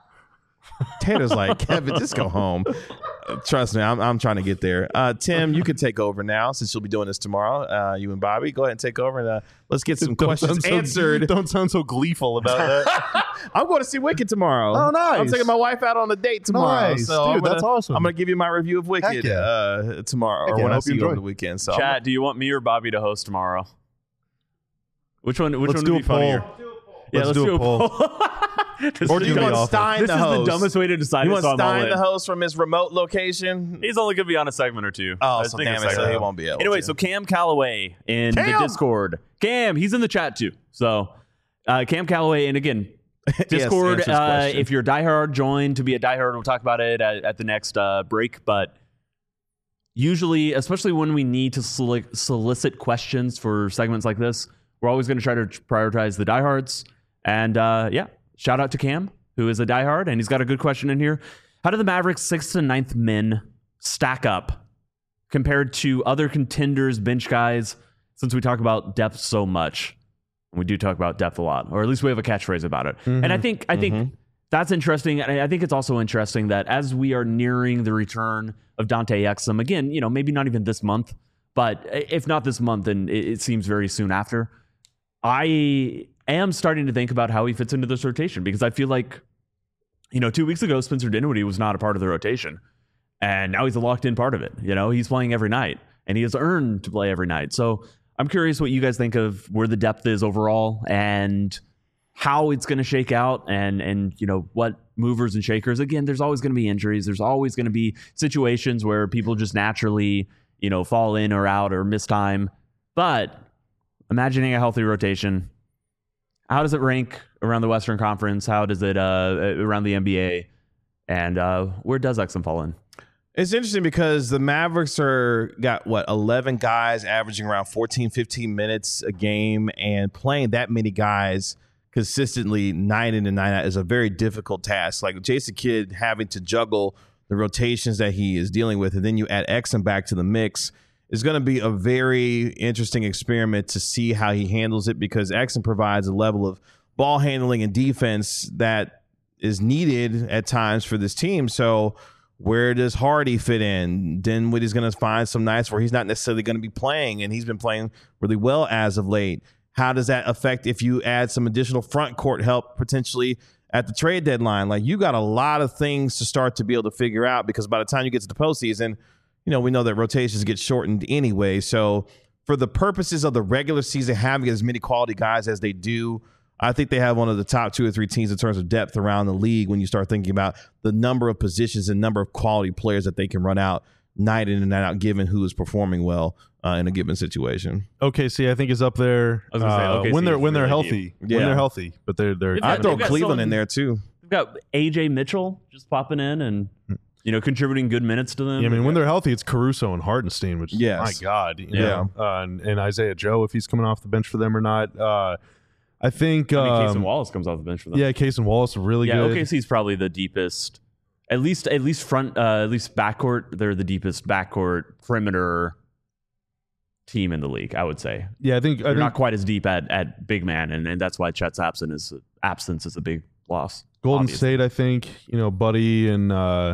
Tanner's like, Kevin, just go home. Trust me, I'm trying to get there. Tim, you can take over now since you'll be doing this tomorrow. You and Bobby, go ahead and take over and let's get some questions answered.
Don't sound so gleeful about that.
I'm going to see Wicked tomorrow.
Oh, nice.
I'm taking my wife out on a date tomorrow.
Nice.
So
Dude, that's awesome.
I'm going to give you my review of Wicked tomorrow or
yeah,
when
I
I
hope
see
you
you over
enjoy.
the weekend. So
Chat, do you want me or Bobby to host tomorrow? Which one
Let's
would
do
be
a poll.
funnier? Yeah,
Let's do a poll.
Or do you want Stein
This
the
is
host?
the dumbest way to decide
You
it,
want
so I'm all
Stein
in.
the host from his remote location?
He's only going to be on a segment or two.
Oh,
I was
so
thinking
damn
a
it, so
segment.
he won't be able
Anyway,
to.
so Cam Calloway in the
Cam!
Discord. Cam, he's in the chat too. So Cam Calloway, and again, Discord,
answer his question.
if you're a diehard, join to be a diehard. We'll talk about it at the next break. But usually, especially when we need to solicit questions for segments like this, we're always going to try to prioritize the diehards. And shout out to Cam, who is a diehard, and he's got a good question in here. How do the Mavericks' 6th and 9th men stack up compared to other contenders, bench guys, since we talk about depth so much? We do talk about depth a lot, or at least we have a catchphrase about it. And I think that's interesting. And I think it's also interesting that as we are nearing the return of Dante Exum, again, maybe not even this month, but if not this month, then it seems very soon after. I am starting to think about how he fits into this rotation, because I feel like, 2 weeks ago, Spencer Dinwiddie was not a part of the rotation, and now he's a locked in part of it. He's playing every night, and he has earned to play every night. So I'm curious what you guys think of where the depth is overall and how it's going to shake out, and what movers and shakers. Again, there's always going to be injuries. There's always going to be situations where people just naturally, fall in or out or miss time. But imagining a healthy rotation, how does it rank around the Western Conference? How does it around the NBA? And where does Exum fall in?
It's interesting because the Mavericks got 11 guys averaging around 14, 15 minutes a game, and playing that many guys consistently night in and night out is a very difficult task. Like Jason Kidd having to juggle the rotations that he is dealing with, and then you add Exum back to the mix, is going to be a very interesting experiment to see how he handles it, because Exum provides a level of ball handling and defense that is needed at times for this team. So where does Hardy fit in? Dinwiddie's going to find some nights where he's not necessarily going to be playing, and he's been playing really well as of late. How does that affect if you add some additional front court help potentially at the trade deadline? Like, you got a lot of things to start to be able to figure out, because by the time you get to the postseason, we know that rotations get shortened anyway. So for the purposes of the regular season, having as many quality guys as they do, I think they have one of the top 2 or 3 teams in terms of depth around the league when you start thinking about the number of positions and number of quality players that they can run out night in and night out, given who is performing well in a given situation.
OKC, I think, is up there
I was gonna say, OKC
when
is
they're
really
healthy. When
Yeah.
they're healthy, but they're
I'd throw
they've got
Cleveland
someone-
in there too.
We've got AJ Mitchell just popping in and contributing good minutes to them.
Yeah, I mean, when they're healthy, it's Caruso and Hartenstein, which,
Yes.
my God.
Yeah.
And Isaiah Joe, if he's coming off the bench for them or not. I think...
Case and Wallace comes off the bench for them.
Yeah, Case and Wallace are really good.
OKC is probably the deepest, at least backcourt. They're the deepest backcourt perimeter team in the league, I would say.
Yeah, I think...
They're not quite as deep at big man, and that's why Chet's absence is a big loss.
Golden
obviously.
State, I think, Buddy and...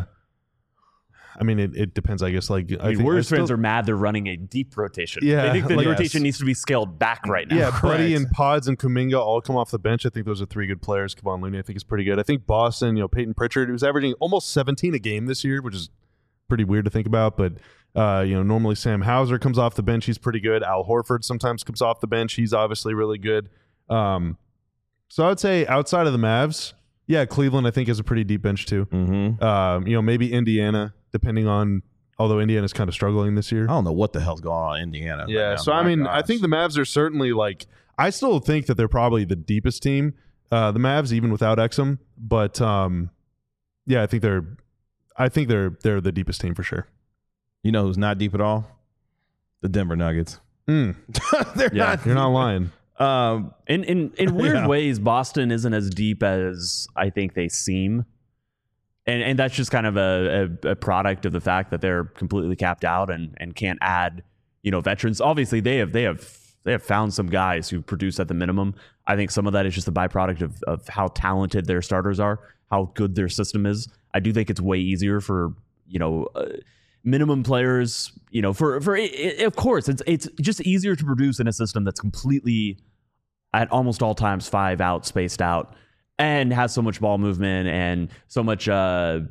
I mean, it depends, I guess. Like, I think
Warriors fans are mad they're running a deep rotation.
Yeah,
They think the
like-
rotation needs to be scaled back right now.
Yeah, Buddy
Correct.
and Pods and Kuminga all come off the bench. I think those are 3 good players. Kevon Looney, I think, is pretty good. I think Boston, Peyton Pritchard, who's averaging almost 17 a game this year, which is pretty weird to think about. But, normally Sam Hauser comes off the bench. He's pretty good. Al Horford sometimes comes off the bench. He's obviously really good. So I would say outside of the Mavs, yeah, Cleveland I think is a pretty deep bench too.
Mm-hmm.
Maybe Indiana, depending on. Although Indiana's kind of struggling this year.
I don't know what the hell's going on in Indiana.
Yeah,
right now.
so
My
I mean,
gosh.
I think the Mavs are certainly like. I still think that they're probably the deepest team, the Mavs, even without Exum. But yeah, I think they're the deepest team for sure.
You know who's not deep at all? The Denver Nuggets.
Mm.
They're
Yeah,
not.
You're not lying.
In weird
Yeah.
ways, Boston isn't as deep as I think they seem. And that's just kind of a product of the fact that they're completely capped out and can't add, veterans. Obviously, they have found some guys who produce at the minimum. I think some of that is just a byproduct of how talented their starters are, how good their system is. I do think it's way easier for minimum players. Of course, it's just easier to produce in a system that's completely at almost all times 5 out, spaced out. And has so much ball movement and so much, just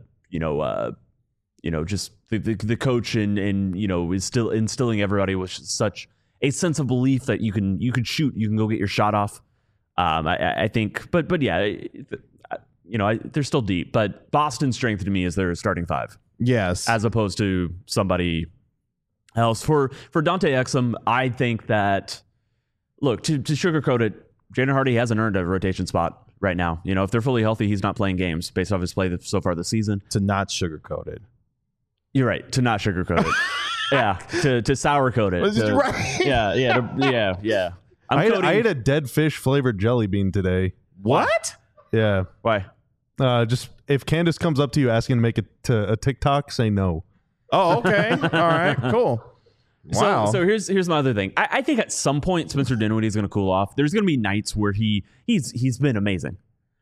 the coach and is still instilling everybody with such a sense of belief that you can shoot, you can go get your shot off. I think, but yeah, they're still deep. But Boston's strength to me is their starting 5,
Yes.
as opposed to somebody else. For Dante Exum, I think that look to sugarcoat it, Jaden Hardy hasn't earned a rotation spot. Right now, if they're fully healthy, he's not playing games based off his play so far this season.
To not sugarcoat it.
You're right. To not sugarcoat it. Yeah. To sourcoat it.
Was it right?
Yeah.
I ate a dead fish flavored jelly bean today.
What?
Yeah.
Why?
Just if Candace comes up to you asking to make it to a TikTok, say no.
Oh, okay. All right. Cool. Wow.
So here's my other thing. I think at some point Spencer Dinwiddie is going to cool off. There's going to be nights where he's been amazing.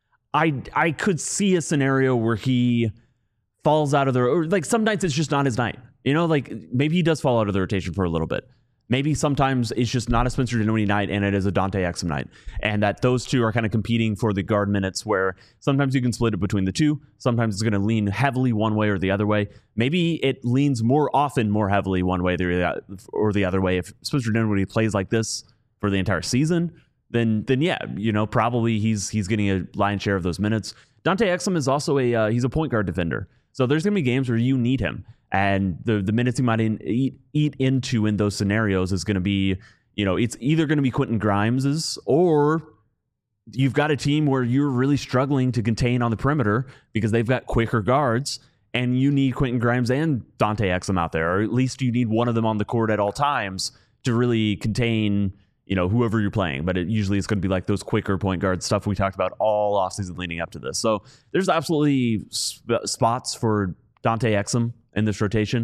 I could see a scenario where he falls out of or like some nights it's just not his night. Like maybe he does fall out of the rotation for a little bit. Maybe sometimes it's just not a Spencer Dinwiddie night and it is a Dante Exum night. And that those two are kind of competing for the guard minutes where sometimes you can split it between the two. Sometimes it's going to lean heavily one way or the other way. Maybe it leans more heavily one way or the other way. If Spencer Dinwiddie plays like this for the entire season, then yeah, probably he's getting a lion's share of those minutes. Dante Exum is also he's a point guard defender. So there's going to be games where you need him. And the minutes he might eat into in those scenarios is going to be, it's either going to be Quentin Grimes's or you've got a team where you're really struggling to contain on the perimeter because they've got quicker guards and you need Quentin Grimes and Dante Exum out there, or at least you need one of them on the court at all times to really contain, whoever you're playing. But usually it's going to be like those quicker point guard stuff we talked about all offseason leading up to this. So there's absolutely spots for Dante Exum in this rotation.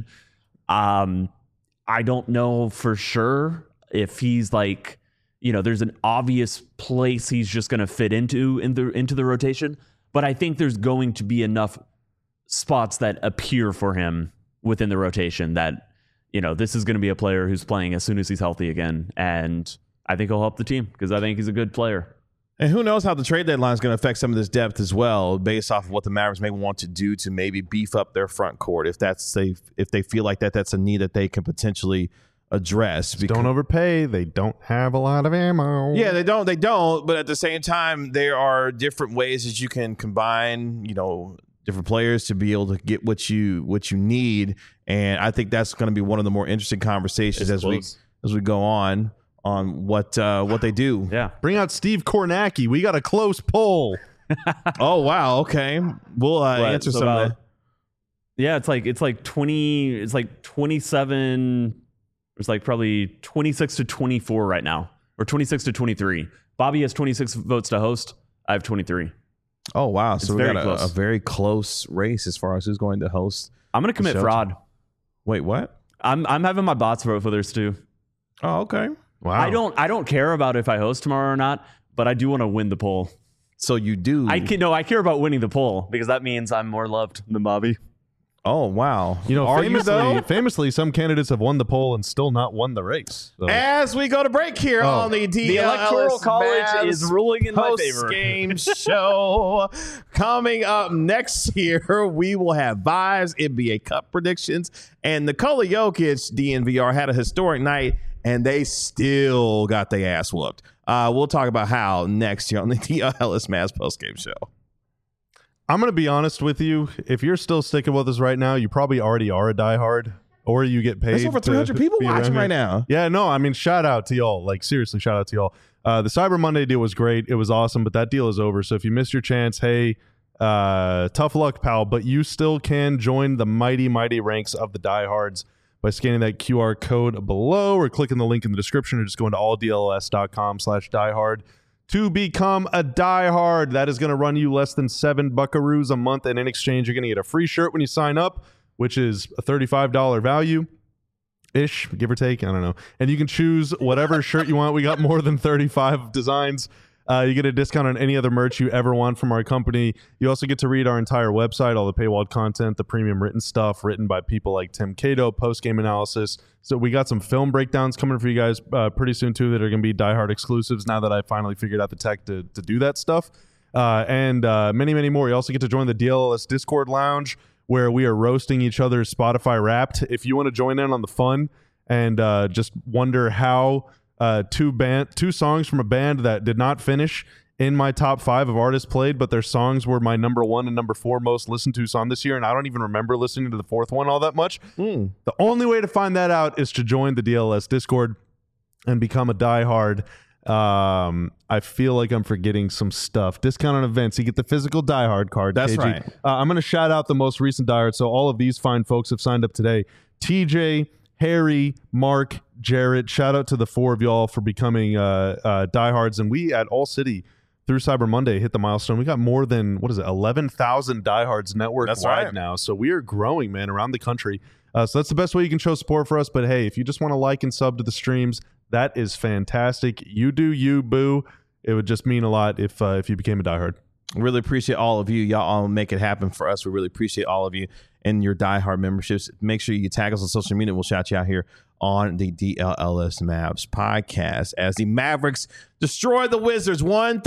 I don't know for sure if he's like, there's an obvious place he's just going to fit into the rotation, but I think there's going to be enough spots that appear for him within the rotation that, this is going to be a player who's playing as soon as he's healthy again. And I think he'll help the team because I think he's a good player.
And who knows how the trade deadline is going to affect some of this depth as well, based off of what the Mavericks may want to do to maybe beef up their front court. If that's safe, if they feel like that's a need that they can potentially address.
Don't overpay. They don't have a lot of ammo.
Yeah, they don't. But at the same time, there are different ways that you can combine, different players to be able to get what you need. And I think that's going to be one of the more interesting conversations as we go on what they do.
Yeah.
Bring out Steve Kornacki. We got a close poll.
Oh wow. Okay. We'll answer some of that.
Yeah, it's like 20. It's like 27. It's like probably 26 to 24 right now, or 26 to 23. Bobby has 26 votes to host. I have 23.
Oh wow. So we
very
got
close.
a very close race as far as who's going to host.
I'm going to commit
show.
fraud.
Wait, what?
I'm having my bots vote for theirs too.
Oh, okay.
Wow.
I don't care about if I host tomorrow or not, but I do want to win the poll.
So you do.
I care about winning the poll because that means I'm more loved than Bobby.
Oh wow. Are you though?
Famously, some candidates have won the poll and still not won the race. So.
As we go to break here on the
The Electoral
DLS
College
Mavs
is ruling in my
post
favor.
game show coming up next year. We will have Vibes, NBA Cup predictions, and Nikola Jokic. DNVR had a historic night, and they still got their ass whooped. We'll talk about how next year on the DLS Mavs postgame show.
I'm going to be honest with you. If you're still sticking with us right now, you probably already are a diehard, or you get paid.
There's over 300 people watching right now.
Yeah, no, I mean, shout out to y'all. Like, seriously, shout out to y'all. The Cyber Monday deal was great. It was awesome, but that deal is over. So if you missed your chance, hey, tough luck, pal. But you still can join the mighty, mighty ranks of the diehards by scanning that QR code below or clicking the link in the description or just going to alldls.com/diehard to become a diehard. That is going to run you less than $7 a month. And in exchange, you're going to get a free shirt when you sign up, which is a $35 value ish, give or take. I don't know. And you can choose whatever shirt you want. We got more than 35 designs. You get a discount on any other merch you ever want from our company. You also get to read our entire website, all the paywalled content, the premium written stuff written by people like Tim Cato, post-game analysis. So we got some film breakdowns coming for you guys pretty soon, too, that are going to be diehard exclusives now that I finally figured out the tech to do that stuff. And many, many more. You also get to join the DLS Discord Lounge, where we are roasting each other's Spotify Wrapped. If you want to join in on the fun and just wonder how two songs from a band that did not finish in my top 5 of artists played, but their songs were my number 1 and number 4 most listened to song this year, and I don't even remember listening to the 4th one all that much. The only way to find that out is to join the DLS Discord and become a diehard. I feel like I'm forgetting some stuff. Discount on events. You get the physical diehard card.
That's
KG.
right.
I'm going to shout out the most recent diehard. So all of these fine folks have signed up today. TJ, Harry, Mark, Jarrett. Shout out to the 4 of y'all for becoming diehards. And we at All City through Cyber Monday hit the milestone. We got more than 11,000 diehards network-wide now. So we are growing, man, around the country. So that's the best way you can show support for us. But hey, if you just want to like and sub to the streams, that is fantastic. You do you, boo. It would just mean a lot if you became a diehard.
Really appreciate all of you. Y'all all make it happen for us. We really appreciate all of you and your diehard memberships. Make sure you tag us on social media. We'll shout you out here on the DLS Mavs podcast as the Mavericks destroy the Wizards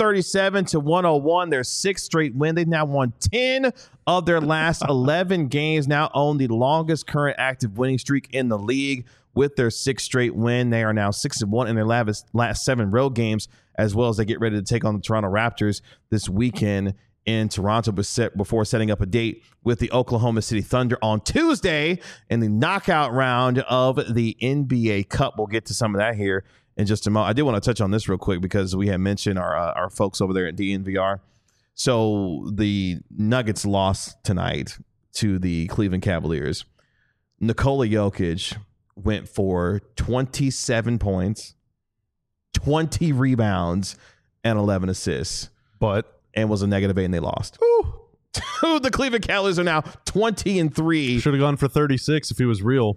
137-101. Their 6th straight win. They've now won 10 of their last 11 games, now own the longest current active winning streak in the league. With their 6th straight win, they are now 6-1 in their last 7 road games, as well as they get ready to take on the Toronto Raptors this weekend in Toronto before setting up a date with the Oklahoma City Thunder on Tuesday in the knockout round of the NBA Cup. We'll get to some of that here in just a moment. I did want to touch on this real quick because we had mentioned our folks over there at DNVR. So the Nuggets lost tonight to the Cleveland Cavaliers. Nikola Jokic went for 27 points, 20 rebounds, and 11 assists. And was a -8, and they lost. The Cleveland Cavaliers are now 20-3.
Should have gone for 36 if he was real.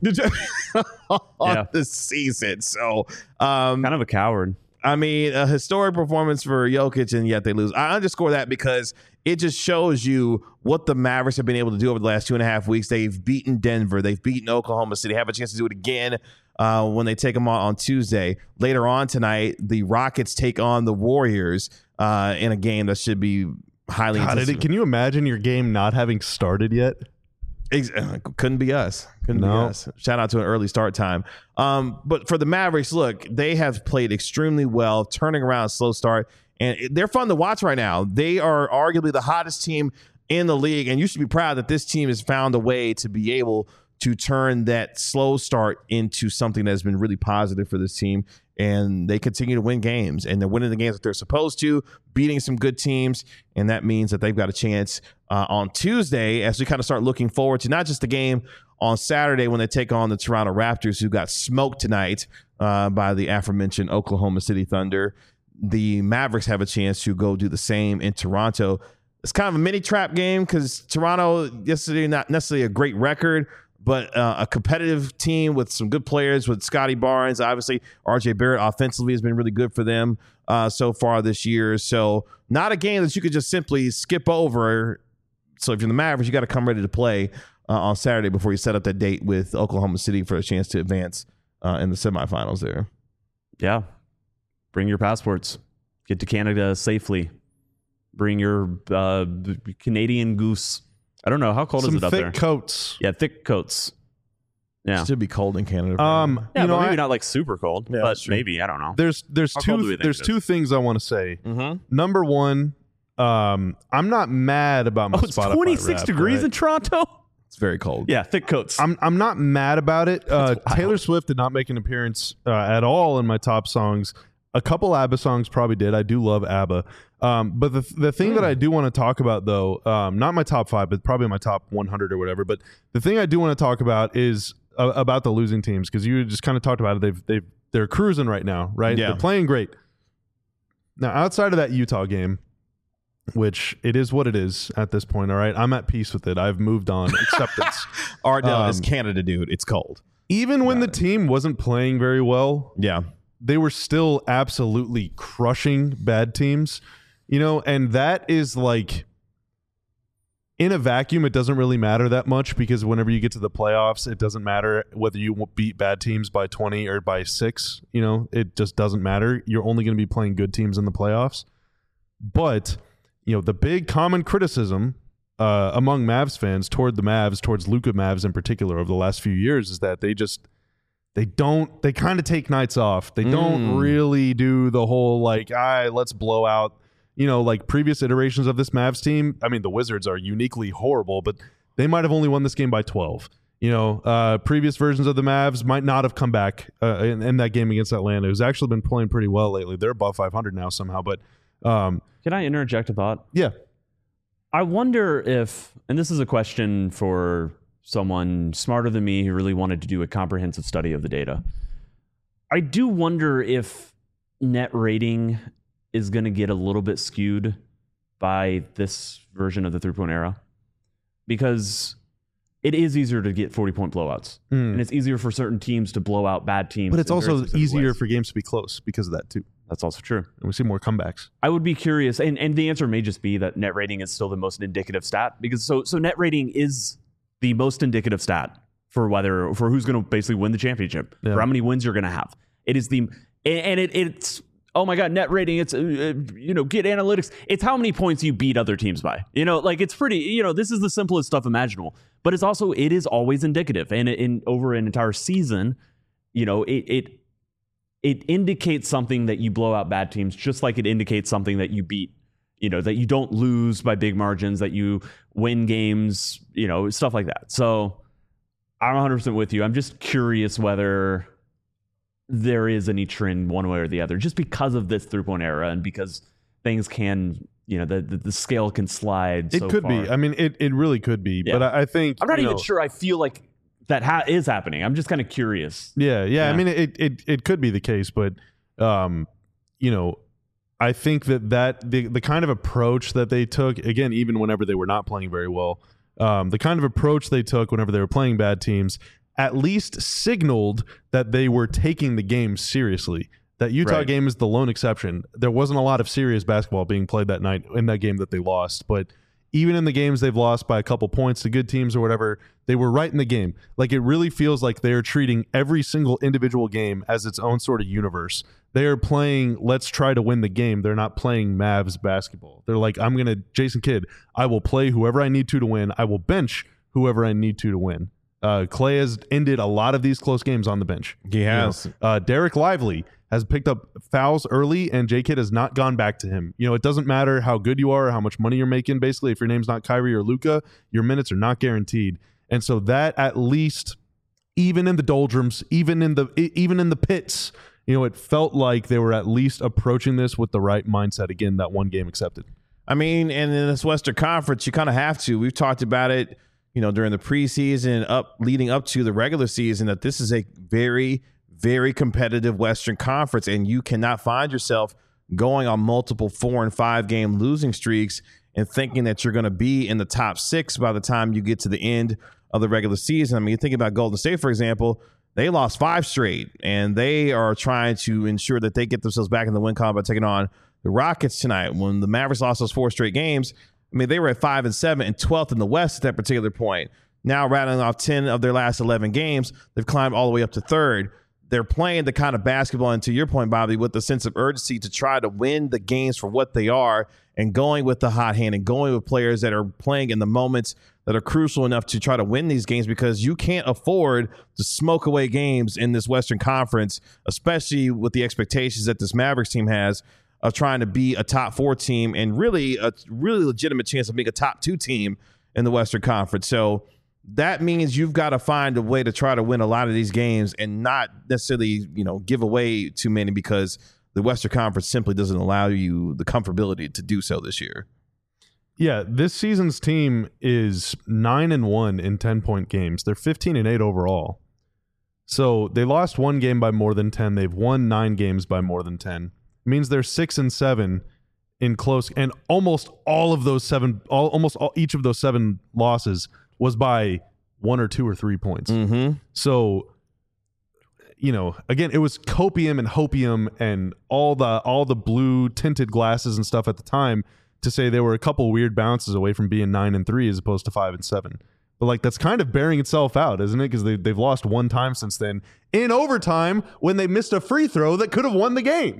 on the season. So
kind of a coward.
I mean, a historic performance for Jokic, and yet they lose. I underscore that because it just shows you what the Mavericks have been able to do over the last 2.5 weeks. They've beaten Denver. They've beaten Oklahoma City. Have a chance to do it again when they take them on Tuesday. Later on tonight, the Rockets take on the Warriors in a game that should be highly anticipated.
Can you imagine your game not having started yet?
Couldn't be us. Couldn't be us. Shout out to an early start time. But for the Mavericks, look, they have played extremely well, turning around a slow start, and they're fun to watch right now. They are arguably the hottest team in the league, and you should be proud that this team has found a way to be able to turn that slow start into something that has been really positive for this team. And they continue to win games, and they're winning the games that they're supposed to, beating some good teams. And that means that they've got a chance on Tuesday as we kind of start looking forward to not just the game on Saturday when they take on the Toronto Raptors, who got smoked tonight by the aforementioned Oklahoma City Thunder. The Mavericks have a chance to go do the same in Toronto. It's kind of a mini trap game because Toronto yesterday, not necessarily a great record, but a competitive team with some good players with Scotty Barnes. Obviously, RJ Barrett offensively has been really good for them so far this year. So not a game that you could just simply skip over. So if you're the Mavericks, you got to come ready to play on Saturday before you set up that date with Oklahoma City for a chance to advance in the semifinals there.
Yeah. Bring your passports. Get to Canada safely. Bring your Canadian Goose. I don't know. How cold is it up there?
Thick coats.
Yeah, thick coats. Yeah.
Should be cold in Canada.
Yeah,
you know,
but maybe not like super cold,
Yeah,
but
that's true.
maybe, I don't know.
there's
How cold do we think it is?
two things I want to say.
Mhm.
Number one, I'm not mad about my
It's
Spotify
26
Wrapped,
degrees
right?
in Toronto.
It's very cold.
Yeah, thick coats.
I'm not mad about it. Taylor Swift did not make an appearance at all in my top songs. A couple ABBA songs probably did. I do love ABBA. But the thing that I do want to talk about, though, not my top 5, but probably my top 100 or whatever. But the thing I do want to talk about is about the losing teams, because you just kind of talked about it. They're cruising right now, right?
Yeah.
They're playing great. Now, outside of that Utah game, which it is what it is at this point, all right? I'm at peace with it. I've moved on. Acceptance.
Ardell is Canada, dude. It's cold.
Even when the team wasn't playing very well,
Yeah.
they were still absolutely crushing bad teams, you know, and that is like, in a vacuum, it doesn't really matter that much, because whenever you get to the playoffs, it doesn't matter whether you beat bad teams by 20 or by 6, you know, it just doesn't matter. You're only going to be playing good teams in the playoffs. But, you know, the big common criticism among Mavs fans toward the Mavs, towards Luka Mavs in particular, over the last few years is that they kind of take nights off. They don't really do the whole like, let's blow out, you know, like previous iterations of this Mavs team. I mean, the Wizards are uniquely horrible, but they might have only won this game by 12. You know, previous versions of the Mavs might not have come back in that game against Atlanta, who's actually been playing pretty well lately. They're above 500 now somehow, but
Can I interject a thought?
yeah.
I wonder if, and this is a question for someone smarter than me who really wanted to do a comprehensive study of the data. I do wonder if net rating is going to get a little bit skewed by this version of the three-point era, because it is easier to get 40-point blowouts, and it's easier for certain teams to blow out bad teams.
But it's
in very
also
specific
easier
ways.
for games to be close because of that too.
That's also true.
And we see more comebacks.
I would be curious, and the answer may just be that net rating is still the most indicative stat, because so net rating is the most indicative stat for who's going to basically win the championship,
Yeah.
for how many wins you're going to have. It is it's oh my god, net rating. It's get analytics. It's how many points you beat other teams by. You know, like it's pretty. This is the simplest stuff imaginable, but it is always indicative, and over an entire season, it indicates something that you blow out bad teams, just like it indicates something that you beat, that you don't lose by big margins, that you win games, stuff like that. So I'm 100% with you. I'm just curious whether there is any trend one way or the other, just because of this three-point era and because things can, the scale can slide.
It could be. I mean, it really could be.
Yeah.
But I think
I'm not even sure I feel like that is happening. I'm just kind of curious.
Yeah. I mean, it could be the case, but I think that the kind of approach that they took, again, even whenever they were not playing very well, the kind of approach they took whenever they were playing bad teams at least signaled that they were taking the game seriously. That Utah game is the lone exception. There wasn't a lot of serious basketball being played that night in that game that they lost, but even in the games they've lost by a couple points to good teams or whatever, they were right in the game. Like, it really feels like they're treating every single individual game as its own sort of universe. They are playing, let's try to win the game. They're not playing Mavs basketball. They're like, Jason Kidd, I will play whoever I need to win. I will bench whoever I need to win. Clay has ended a lot of these close games on the bench.
He has.
Derek Lively has picked up fouls early, and J-Kidd has not gone back to him. It doesn't matter how good you are or how much money you're making. Basically, if your name's not Kyrie or Luka, your minutes are not guaranteed. And so that, at least, even in the doldrums, even in the pits, it felt like they were at least approaching this with the right mindset. Again, that one game accepted.
I mean, and in this Western Conference, you kind of have to. We've talked about it, during the preseason, leading up to the regular season, that this is a very, very competitive Western Conference, and you cannot find yourself going on multiple 4 and 5 game losing streaks and thinking that you're going to be in the top 6 by the time you get to the end of the regular season. I mean, you think about Golden State, for example. They lost 5 straight, and they are trying to ensure that they get themselves back in the win column by taking on the Rockets tonight. When the Mavericks lost those 4 straight games, I mean, they were at 5 and 7 and 12th in the West at that particular point. Now, rattling off 10 of their last 11 games, they've climbed all the way up to 3rd. they're playing the kind of basketball, and to your point, Bobby, with the sense of urgency to try to win the games for what they are, and going with the hot hand and going with players that are playing in the moments that are crucial enough to try to win these games, because you can't afford to smoke away games in this Western Conference, especially with the expectations that this Mavericks team has of trying to be a top 4 team and really a really legitimate chance of being a top 2 team in the Western Conference. So that means you've got to find a way to try to win a lot of these games and not necessarily, give away too many, because the Western Conference simply doesn't allow you the comfortability to do so this year.
Yeah, this season's team is 9-1 in 10-point games. They're 15-8 overall. So they lost 1 game by more than 10. They've won 9 games by more than 10. It means they're 6-7 in close, and almost all of those 7, each of those 7 losses was by 1 or 2 or 3 points.
Mm-hmm.
So, again, it was copium and hopium and all the blue tinted glasses and stuff at the time to say they were a couple weird bounces away from being 9-3 as opposed to 5-7. But that's kind of bearing itself out, isn't it? Because they've lost 1 time since then in overtime when they missed a free throw that could have won the game.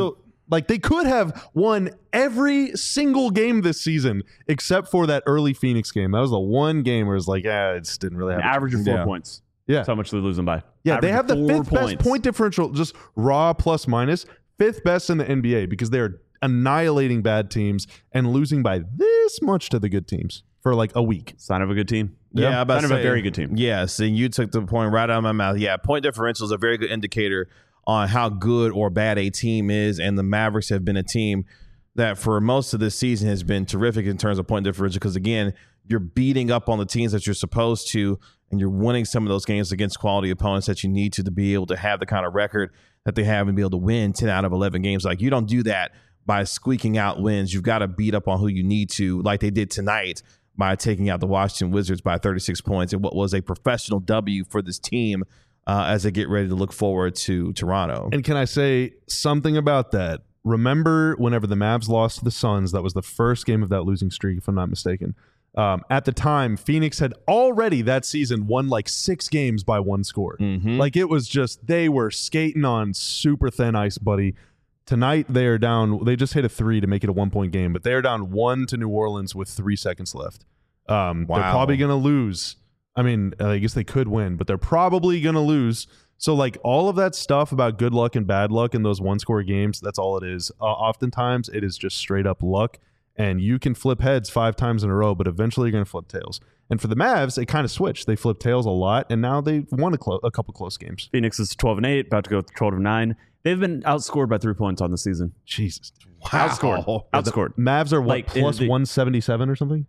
They could have won every single game this season except for that early Phoenix game. That was the one game where it was it just didn't really have
an average of 4 points.
Yeah.
That's how much they're losing by.
Yeah,
Average
they have the 5th best point differential, just raw plus minus, 5th best in the NBA, because they're annihilating bad teams and losing by this much to the good teams for a week.
Sign of a good team.
Yeah,
sign of a very good team.
Yes, and you took the point right out of my mouth. Yeah, point differential is a very good indicator on how good or bad a team is, and the Mavericks have been a team that for most of this season has been terrific in terms of point differential, because, again, you're beating up on the teams that you're supposed to, and you're winning some of those games against quality opponents that you need to be able to have the kind of record that they have and be able to win 10 out of 11 games. You don't do that by squeaking out wins. You've got to beat up on who you need to, like they did tonight by taking out the Washington Wizards by 36 points in what was a professional W for this team as they get ready to look forward to Toronto.
And can I say something about that? Remember whenever the Mavs lost to the Suns, that was the first game of that losing streak, if I'm not mistaken. At the time, Phoenix had already that season won 6 games by 1 score.
Mm-hmm.
It was just, they were skating on super thin ice, buddy. Tonight, they are down. They just hit a 3 to make it a 1-point game, but they are down 1 to New Orleans with 3 seconds left. They're probably going to lose. I mean, I guess they could win, but they're probably going to lose. So, all of that stuff about good luck and bad luck in those 1-score games, that's all it is. Oftentimes, it is just straight up luck, and you can flip heads 5 times in a row, but eventually you're going to flip tails. And for the Mavs, it kind of switched. They flipped tails a lot, and now they won a couple close games.
Phoenix is 12-8, about to go 12-9. They've been outscored by 3 points on the season.
Jesus.
Wow.
Outscored.
Mavs are plus 177 or something?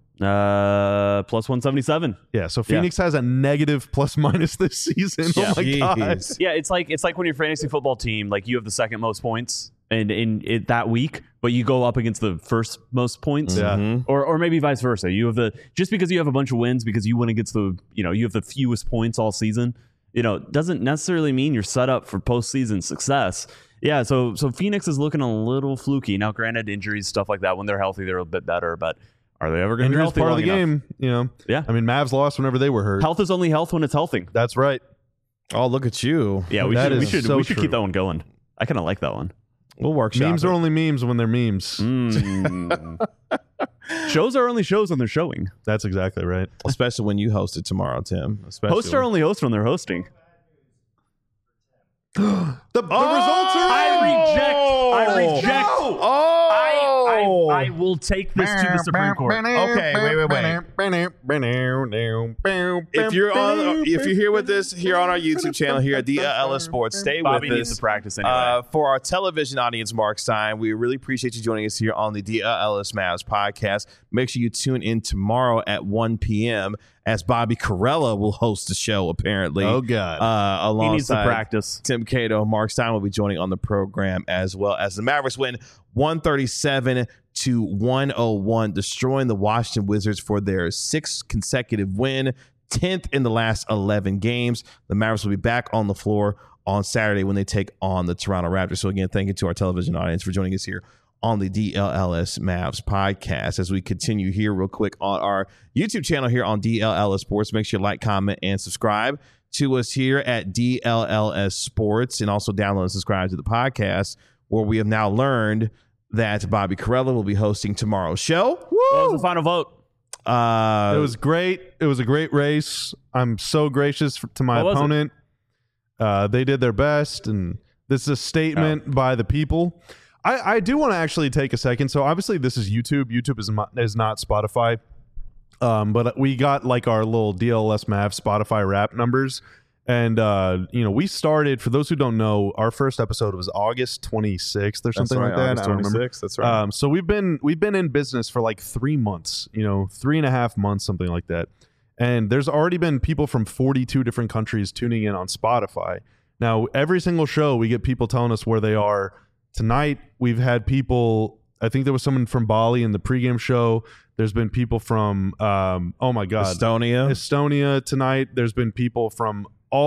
Plus 177.
Yeah, so Phoenix has a negative plus minus this season.
Yeah.
Oh my God.
Yeah, it's like when your fantasy football team, you have the second most points in that week, but you go up against the first most points.
Yeah.
Or maybe vice versa. You have just because you have a bunch of wins because you win against you have the fewest points all season, doesn't necessarily mean you're set up for postseason success. Yeah, so Phoenix is looking a little fluky. Now, granted, injuries, stuff like that, when they're healthy, they're a bit better, but are they ever going to be healthy?
Part of the
enough?
game,
Yeah.
I mean, Mavs lost whenever they were hurt.
Health is only health when it's healthy.
That's right.
Oh, look at you.
Yeah, we should
so
keep that one going. I kind of like that one.
We'll workshop
Memes
it.
are only memes when they're memes.
Shows are only shows when they're showing.
That's exactly right.
Especially when you host it tomorrow, Tim.
Hosts are only hosts when they're hosting.
The results are
I reject.
Oh!
I will take this to the Supreme Court.
Okay, wait. If you're here with us here on our YouTube channel here at DLS Sports, stay
Bobby
with
needs
us.
to practice anyway.
For our television audience, Mark Stein, we really appreciate you joining us here on the DLS Mavs podcast. Make sure you tune in tomorrow at 1 p.m. as Bobby Carella will host the show, apparently.
Oh, God.
Alongside
he needs to practice.
Tim Cato, Mark Stein will be joining on the program as well, as the Mavericks win 137-101, destroying the Washington Wizards for their 6th consecutive win, 10th in the last 11 games. The Mavericks will be back on the floor on Saturday when they take on the Toronto Raptors. So again, thank you to our television audience for joining us here on the DLLS Mavs podcast. As we continue here real quick on our YouTube channel here on DLLS Sports, make sure you like, comment, and subscribe to us here at DLLS Sports, and also download and subscribe to the podcast, where we have now learned that Bobby Karalla will be hosting tomorrow's show.
What was the final vote?
It was great. It was a great race. I'm so gracious to my opponent. They did their best, and this is a statement by the people. I do want to actually take a second. So obviously this is YouTube. YouTube is not Spotify. But we got like our little DLS Mav Spotify rap numbers. And, we started, for those who don't know, our first episode was August 26th or something like that.
August 26th. That's right.
So we've been in business for like 3 months, 3.5 months, something like that. And there's already been people from 42 different countries tuning in on Spotify. Now, every single show, we get people telling us where they are. Tonight, we've had people, I think there was someone from Bali in the pregame show. There's been people from, Estonia tonight. There's been people from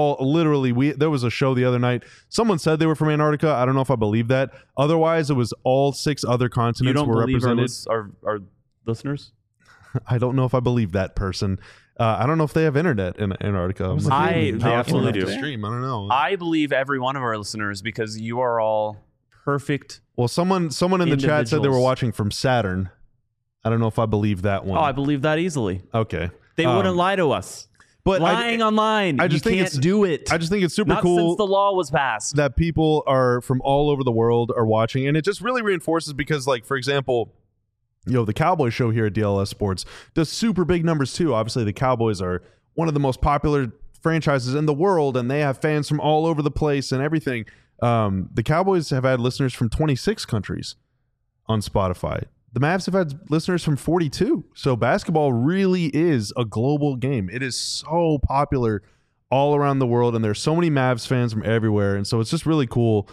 there was a show the other night. Someone said they were from Antarctica. I don't know if I believe that. Otherwise, it was all 6 other continents were represented.
Our listeners?
I don't know if I believe that person. I don't know if they have internet in Antarctica.
They absolutely do.
Stream. I don't know.
I believe every one of our listeners, because you are all perfect.
Well, someone in the chat said they were watching from Saturn. I don't know if I believe that one.
Oh, I believe that easily.
Okay.
They wouldn't lie to us.
But
lying online, you can't do it.
I just think it's super
Not
cool
since the law was passed.
that people are from all over the world are watching, and it just really reinforces because, like, for example, the Cowboys show here at DLS Sports does super big numbers too. Obviously, the Cowboys are one of the most popular franchises in the world, and they have fans from all over the place and everything. The Cowboys have had listeners from 26 countries on Spotify. The Mavs have had listeners from 42. So basketball really is a global game. It is so popular all around the world, and there's so many Mavs fans from everywhere. And so it's just really cool,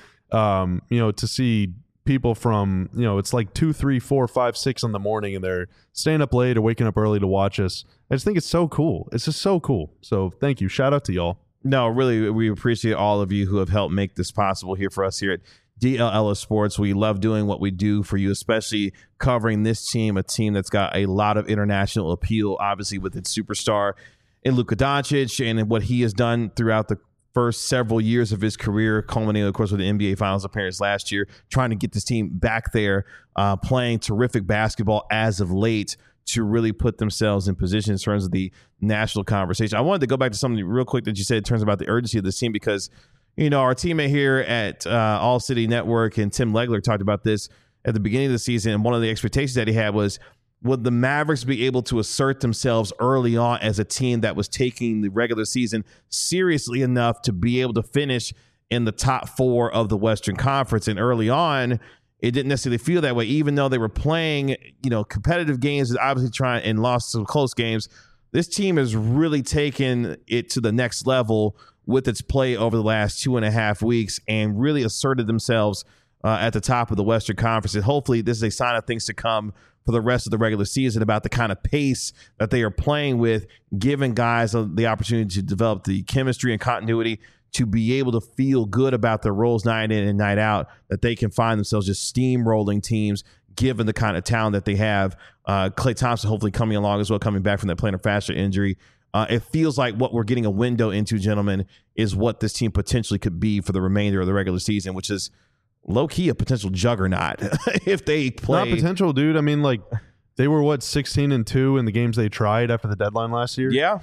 to see people from, it's like 2, 3, 4, 5, 6 in the morning, and they're staying up late or waking up early to watch us. I just think it's so cool. It's just so cool. So thank you. Shout out to y'all.
No, really, we appreciate all of you who have helped make this possible here for us here at DLLS Sports. We love doing what we do for you, especially covering this team, a team that's got a lot of international appeal, obviously with its superstar in Luka Doncic and what he has done throughout the first several years of his career, culminating, of course, with the NBA Finals appearance last year, trying to get this team back there, playing terrific basketball as of late to really put themselves in position in terms of the national conversation. I wanted to go back to something real quick that you said in terms about the urgency of this team, because our teammate here at All City Network and Tim Legler talked about this at the beginning of the season. And one of the expectations that he had was, would the Mavericks be able to assert themselves early on as a team that was taking the regular season seriously enough to be able to finish in the top 4 of the Western Conference? And early on, it didn't necessarily feel that way, even though they were playing, competitive games and obviously trying and lost some close games. This team has really taken it to the next level with its play over the last 2.5 weeks and really asserted themselves at the top of the Western Conference. And hopefully this is a sign of things to come for the rest of the regular season about the kind of pace that they are playing with, giving guys the opportunity to develop the chemistry and continuity to be able to feel good about their roles night in and night out, that they can find themselves just steamrolling teams given the kind of talent that they have. Klay Thompson hopefully coming along as well, coming back from that plantar fascia injury. It feels like what we're getting a window into, gentlemen, is what this team potentially could be for the remainder of the regular season, which is low-key a potential juggernaut if they play.
Not potential, dude. I mean, like, they were, 16-2 in the games they tried after the deadline last year?
Yeah.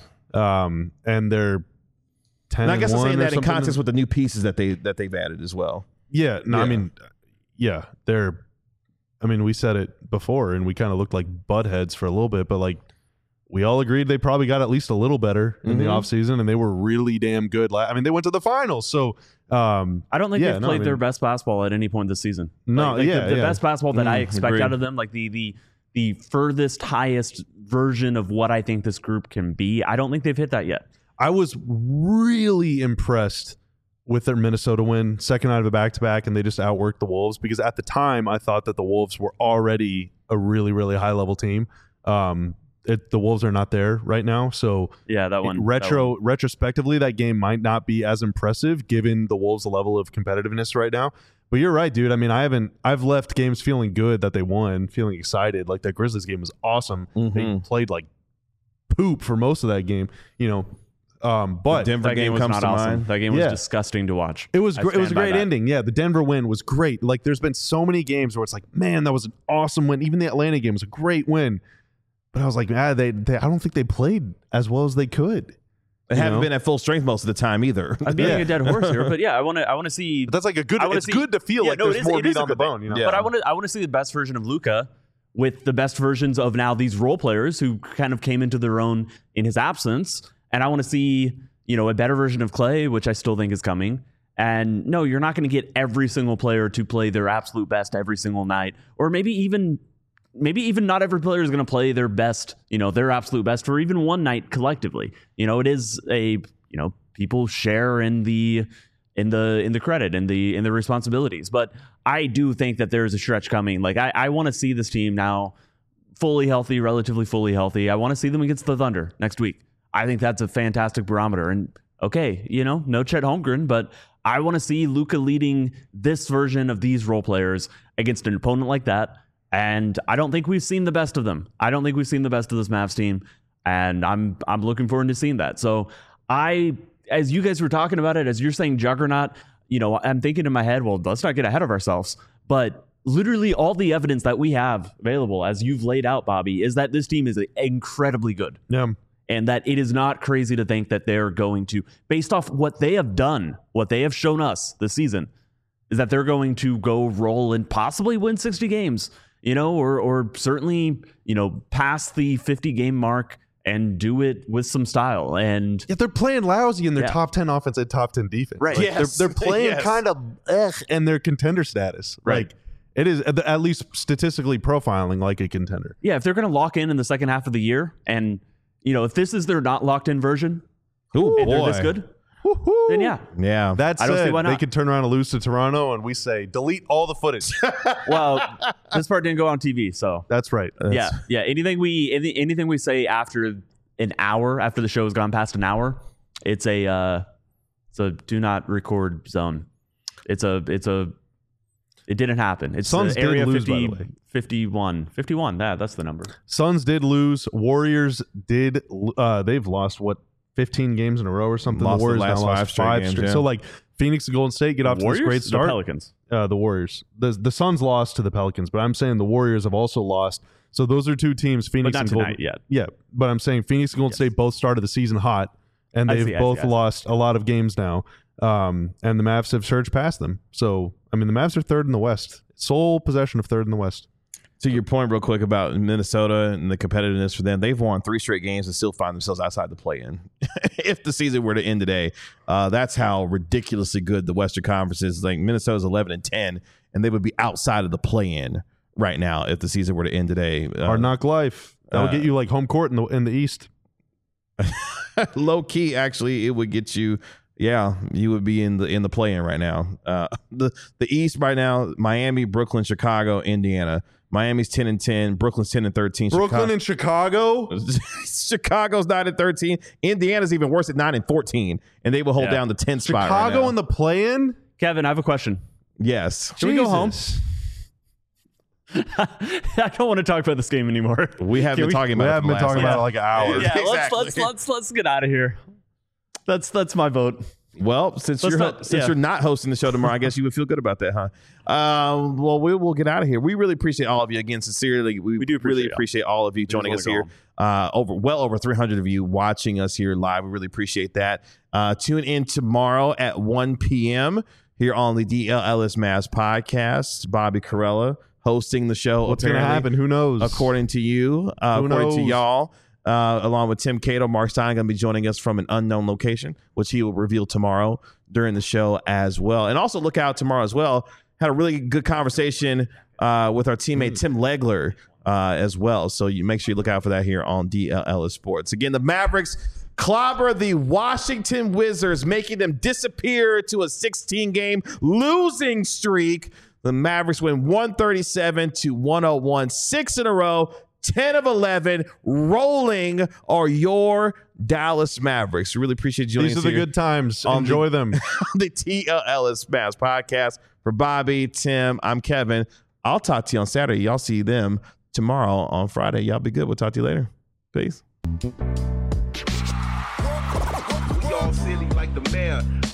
And they're 10-1.
And I guess I'm saying that in context with the new pieces that they've added as well.
Yeah. No, yeah. We said it before, and we kind of looked like buttheads for a little bit, but, like, we all agreed they probably got at least a little better in the offseason, and they were really damn good. They went to the finals. So
I don't think they've played their best basketball at any point this season.
No,
the best basketball that I expect out of them, like the furthest, highest version of what I think this group can be, I don't think they've hit that yet.
I was really impressed with their Minnesota win, second night of a back-to-back, and they just outworked the Wolves, because at the time I thought that the Wolves were already a really, really high-level team. The Wolves are not there right now, so
yeah,
retrospectively, that game might not be as impressive given the Wolves' level of competitiveness right now. But you're right, dude. I mean, I've left games feeling good that they won, feeling excited. Like, that Grizzlies game was awesome. They played like poop for most of that game. But
Denver
That
game
was
comes
not
to
awesome.
mind.
That game was
Yeah.
disgusting to watch.
it was
I
it was a
stand by
great
that.
ending. Yeah, the Denver win was great. Like there's been so many games where it's like, man, that was an awesome win. Even the Atlanta game was a great win. But I was like, they I don't think they played as well as they could.
They
You
haven't
know?
been at full strength most of the time either.
I'm beating
Yeah.
a dead horse here, but yeah, I want to see.
But that's like a good.
I wanna
It's
see-
good to feel
Yeah,
like
no,
there's
it is-
more
it
meat
is a
on the
good thing.
bone. You know?
Yeah.
But I want to see the best version of Luka with the best versions of now these role players who kind of came into their own in his absence, and I want to see a better version of Clay, which I still think is coming. And no, you're not going to get every single player to play their absolute best every single night, or maybe even not every player is going to play their best, their absolute best for even one night collectively. It is people share in the credit and the responsibilities. But I do think that there is a stretch coming. Like I want to see this team now fully healthy, relatively fully healthy. I want to see them against the Thunder next week. I think that's a fantastic barometer. And okay, no Chet Holmgren, but I want to see Luka leading this version of these role players against an opponent like that. And I don't think we've seen the best of them. I don't think we've seen the best of this Mavs team. And I'm looking forward to seeing that. So as you guys were talking about it, as you're saying juggernaut, I'm thinking in my head, well, let's not get ahead of ourselves. But literally all the evidence that we have available, as you've laid out, Bobby, is that this team is incredibly good.
Yeah.
And that it is not crazy to think that they're going to, based off what they have done, what they have shown us this season, is that they're going to go roll and possibly win 60 games, or certainly, pass the 50 game mark and do it with some style. And
Yeah, they're playing lousy in their
Yeah.
top 10 offense and top 10 defense.
Right.
Like,
Yes.
they're playing
Yes.
kind of and their contender status.
Right.
Like it is at least statistically profiling like a contender.
yeah, if they're going to lock in the second half of the year, and if this is their not locked in version,
Ooh,
and they're
boy.
this good, then yeah.
Yeah.
That
I don't see
said,
why
they
not.
could turn around and lose to Toronto, and we say delete all the footage.
Well, this part didn't go on TV, so
That's right.
yeah. Anything we say after an hour, after the show has gone past an hour, it's a do not record zone. It didn't happen. It's
Suns did
area
lose,
50,
by the way.
51. That's the number.
Suns did lose. Warriors did. They've lost 15 games in a row or something.
Lost
the Warriors
the last
now lost
five straight games, yeah.
So like Phoenix and Golden State get off to
Warriors?
this great
The
start.
Pelicans.
The Warriors. The Suns lost to the Pelicans, but I'm saying the Warriors have also lost. So those are two teams, Phoenix
But not
and
tonight
Golden.
yet.
Yeah, but I'm saying Phoenix and Golden State both started the season hot, and
I
they've
see, I
both
see.
lost a lot of games now. And the Mavs have surged past them. So I mean, the Mavs are third in the West, sole possession of third in the West.
To your point, real quick about Minnesota and the competitiveness for them, they've won 3 straight games and still find themselves outside the play-in. If the season were to end today, that's how ridiculously good the Western Conference is. Like Minnesota's 11-10, and they would be outside of the play-in right now if the season were to end today.
Hard knock life. That'll get you like home court in the East.
Low key, actually, it would get you. Yeah, you would be in the play-in right now. The East right now: Miami, Brooklyn, Chicago, Indiana. Miami's 10-10. Brooklyn's 10-13.
Brooklyn and Chicago.
Chicago's 9-13. Indiana's even worse at 9-14, and they will hold
Yeah.
down the 10th spot. Right
Chicago
now.
in the play-in.
Kevin, I have a question.
Yes,
Should we go home?
Jesus.
I don't want to talk about this game anymore.
we have
Can
been talking
We
about.
haven't
it
been
for the
talking
last
about it like an hour.
Yeah,
Exactly.
let's get out of here. That's my vote.
Well, since
Let's
you're
not- yeah.
you're not hosting the show tomorrow, I guess you would feel good about that, huh? Well, we will get out of here. We really appreciate all of you again. Sincerely, we
do
really
appreciate
appreciate all of you joining us here. Over 300 of you watching us here live. We really appreciate that. Tune in tomorrow at 1 p.m. here on the DLLS Mavs podcast. Bobby Carella hosting the show.
What's going to
apparently,
happen? Who knows?
according to you, according to
knows?
y'all. Along with Tim Cato, Mark Stein going to be joining us from an unknown location, which he will reveal tomorrow during the show as well. And also look out tomorrow as well. Had a really good conversation with our teammate Tim Legler as well. So you make sure you look out for that here on DLLS Sports. Again, the Mavericks clobber the Washington Wizards, making them disappear to a 16-game losing streak. The Mavericks win 137-101, 6 in a row. 10 of 11 rolling are your Dallas Mavericks. Really appreciate you joining
These
us
are the
here
good times.
on
Enjoy them.
on the TLLS Mavs podcast. For Bobby, Tim, I'm Kevin. I'll talk to you on Saturday. Y'all see them tomorrow on Friday. Y'all be good. We'll talk to you later. Peace.
all silly like the mayor.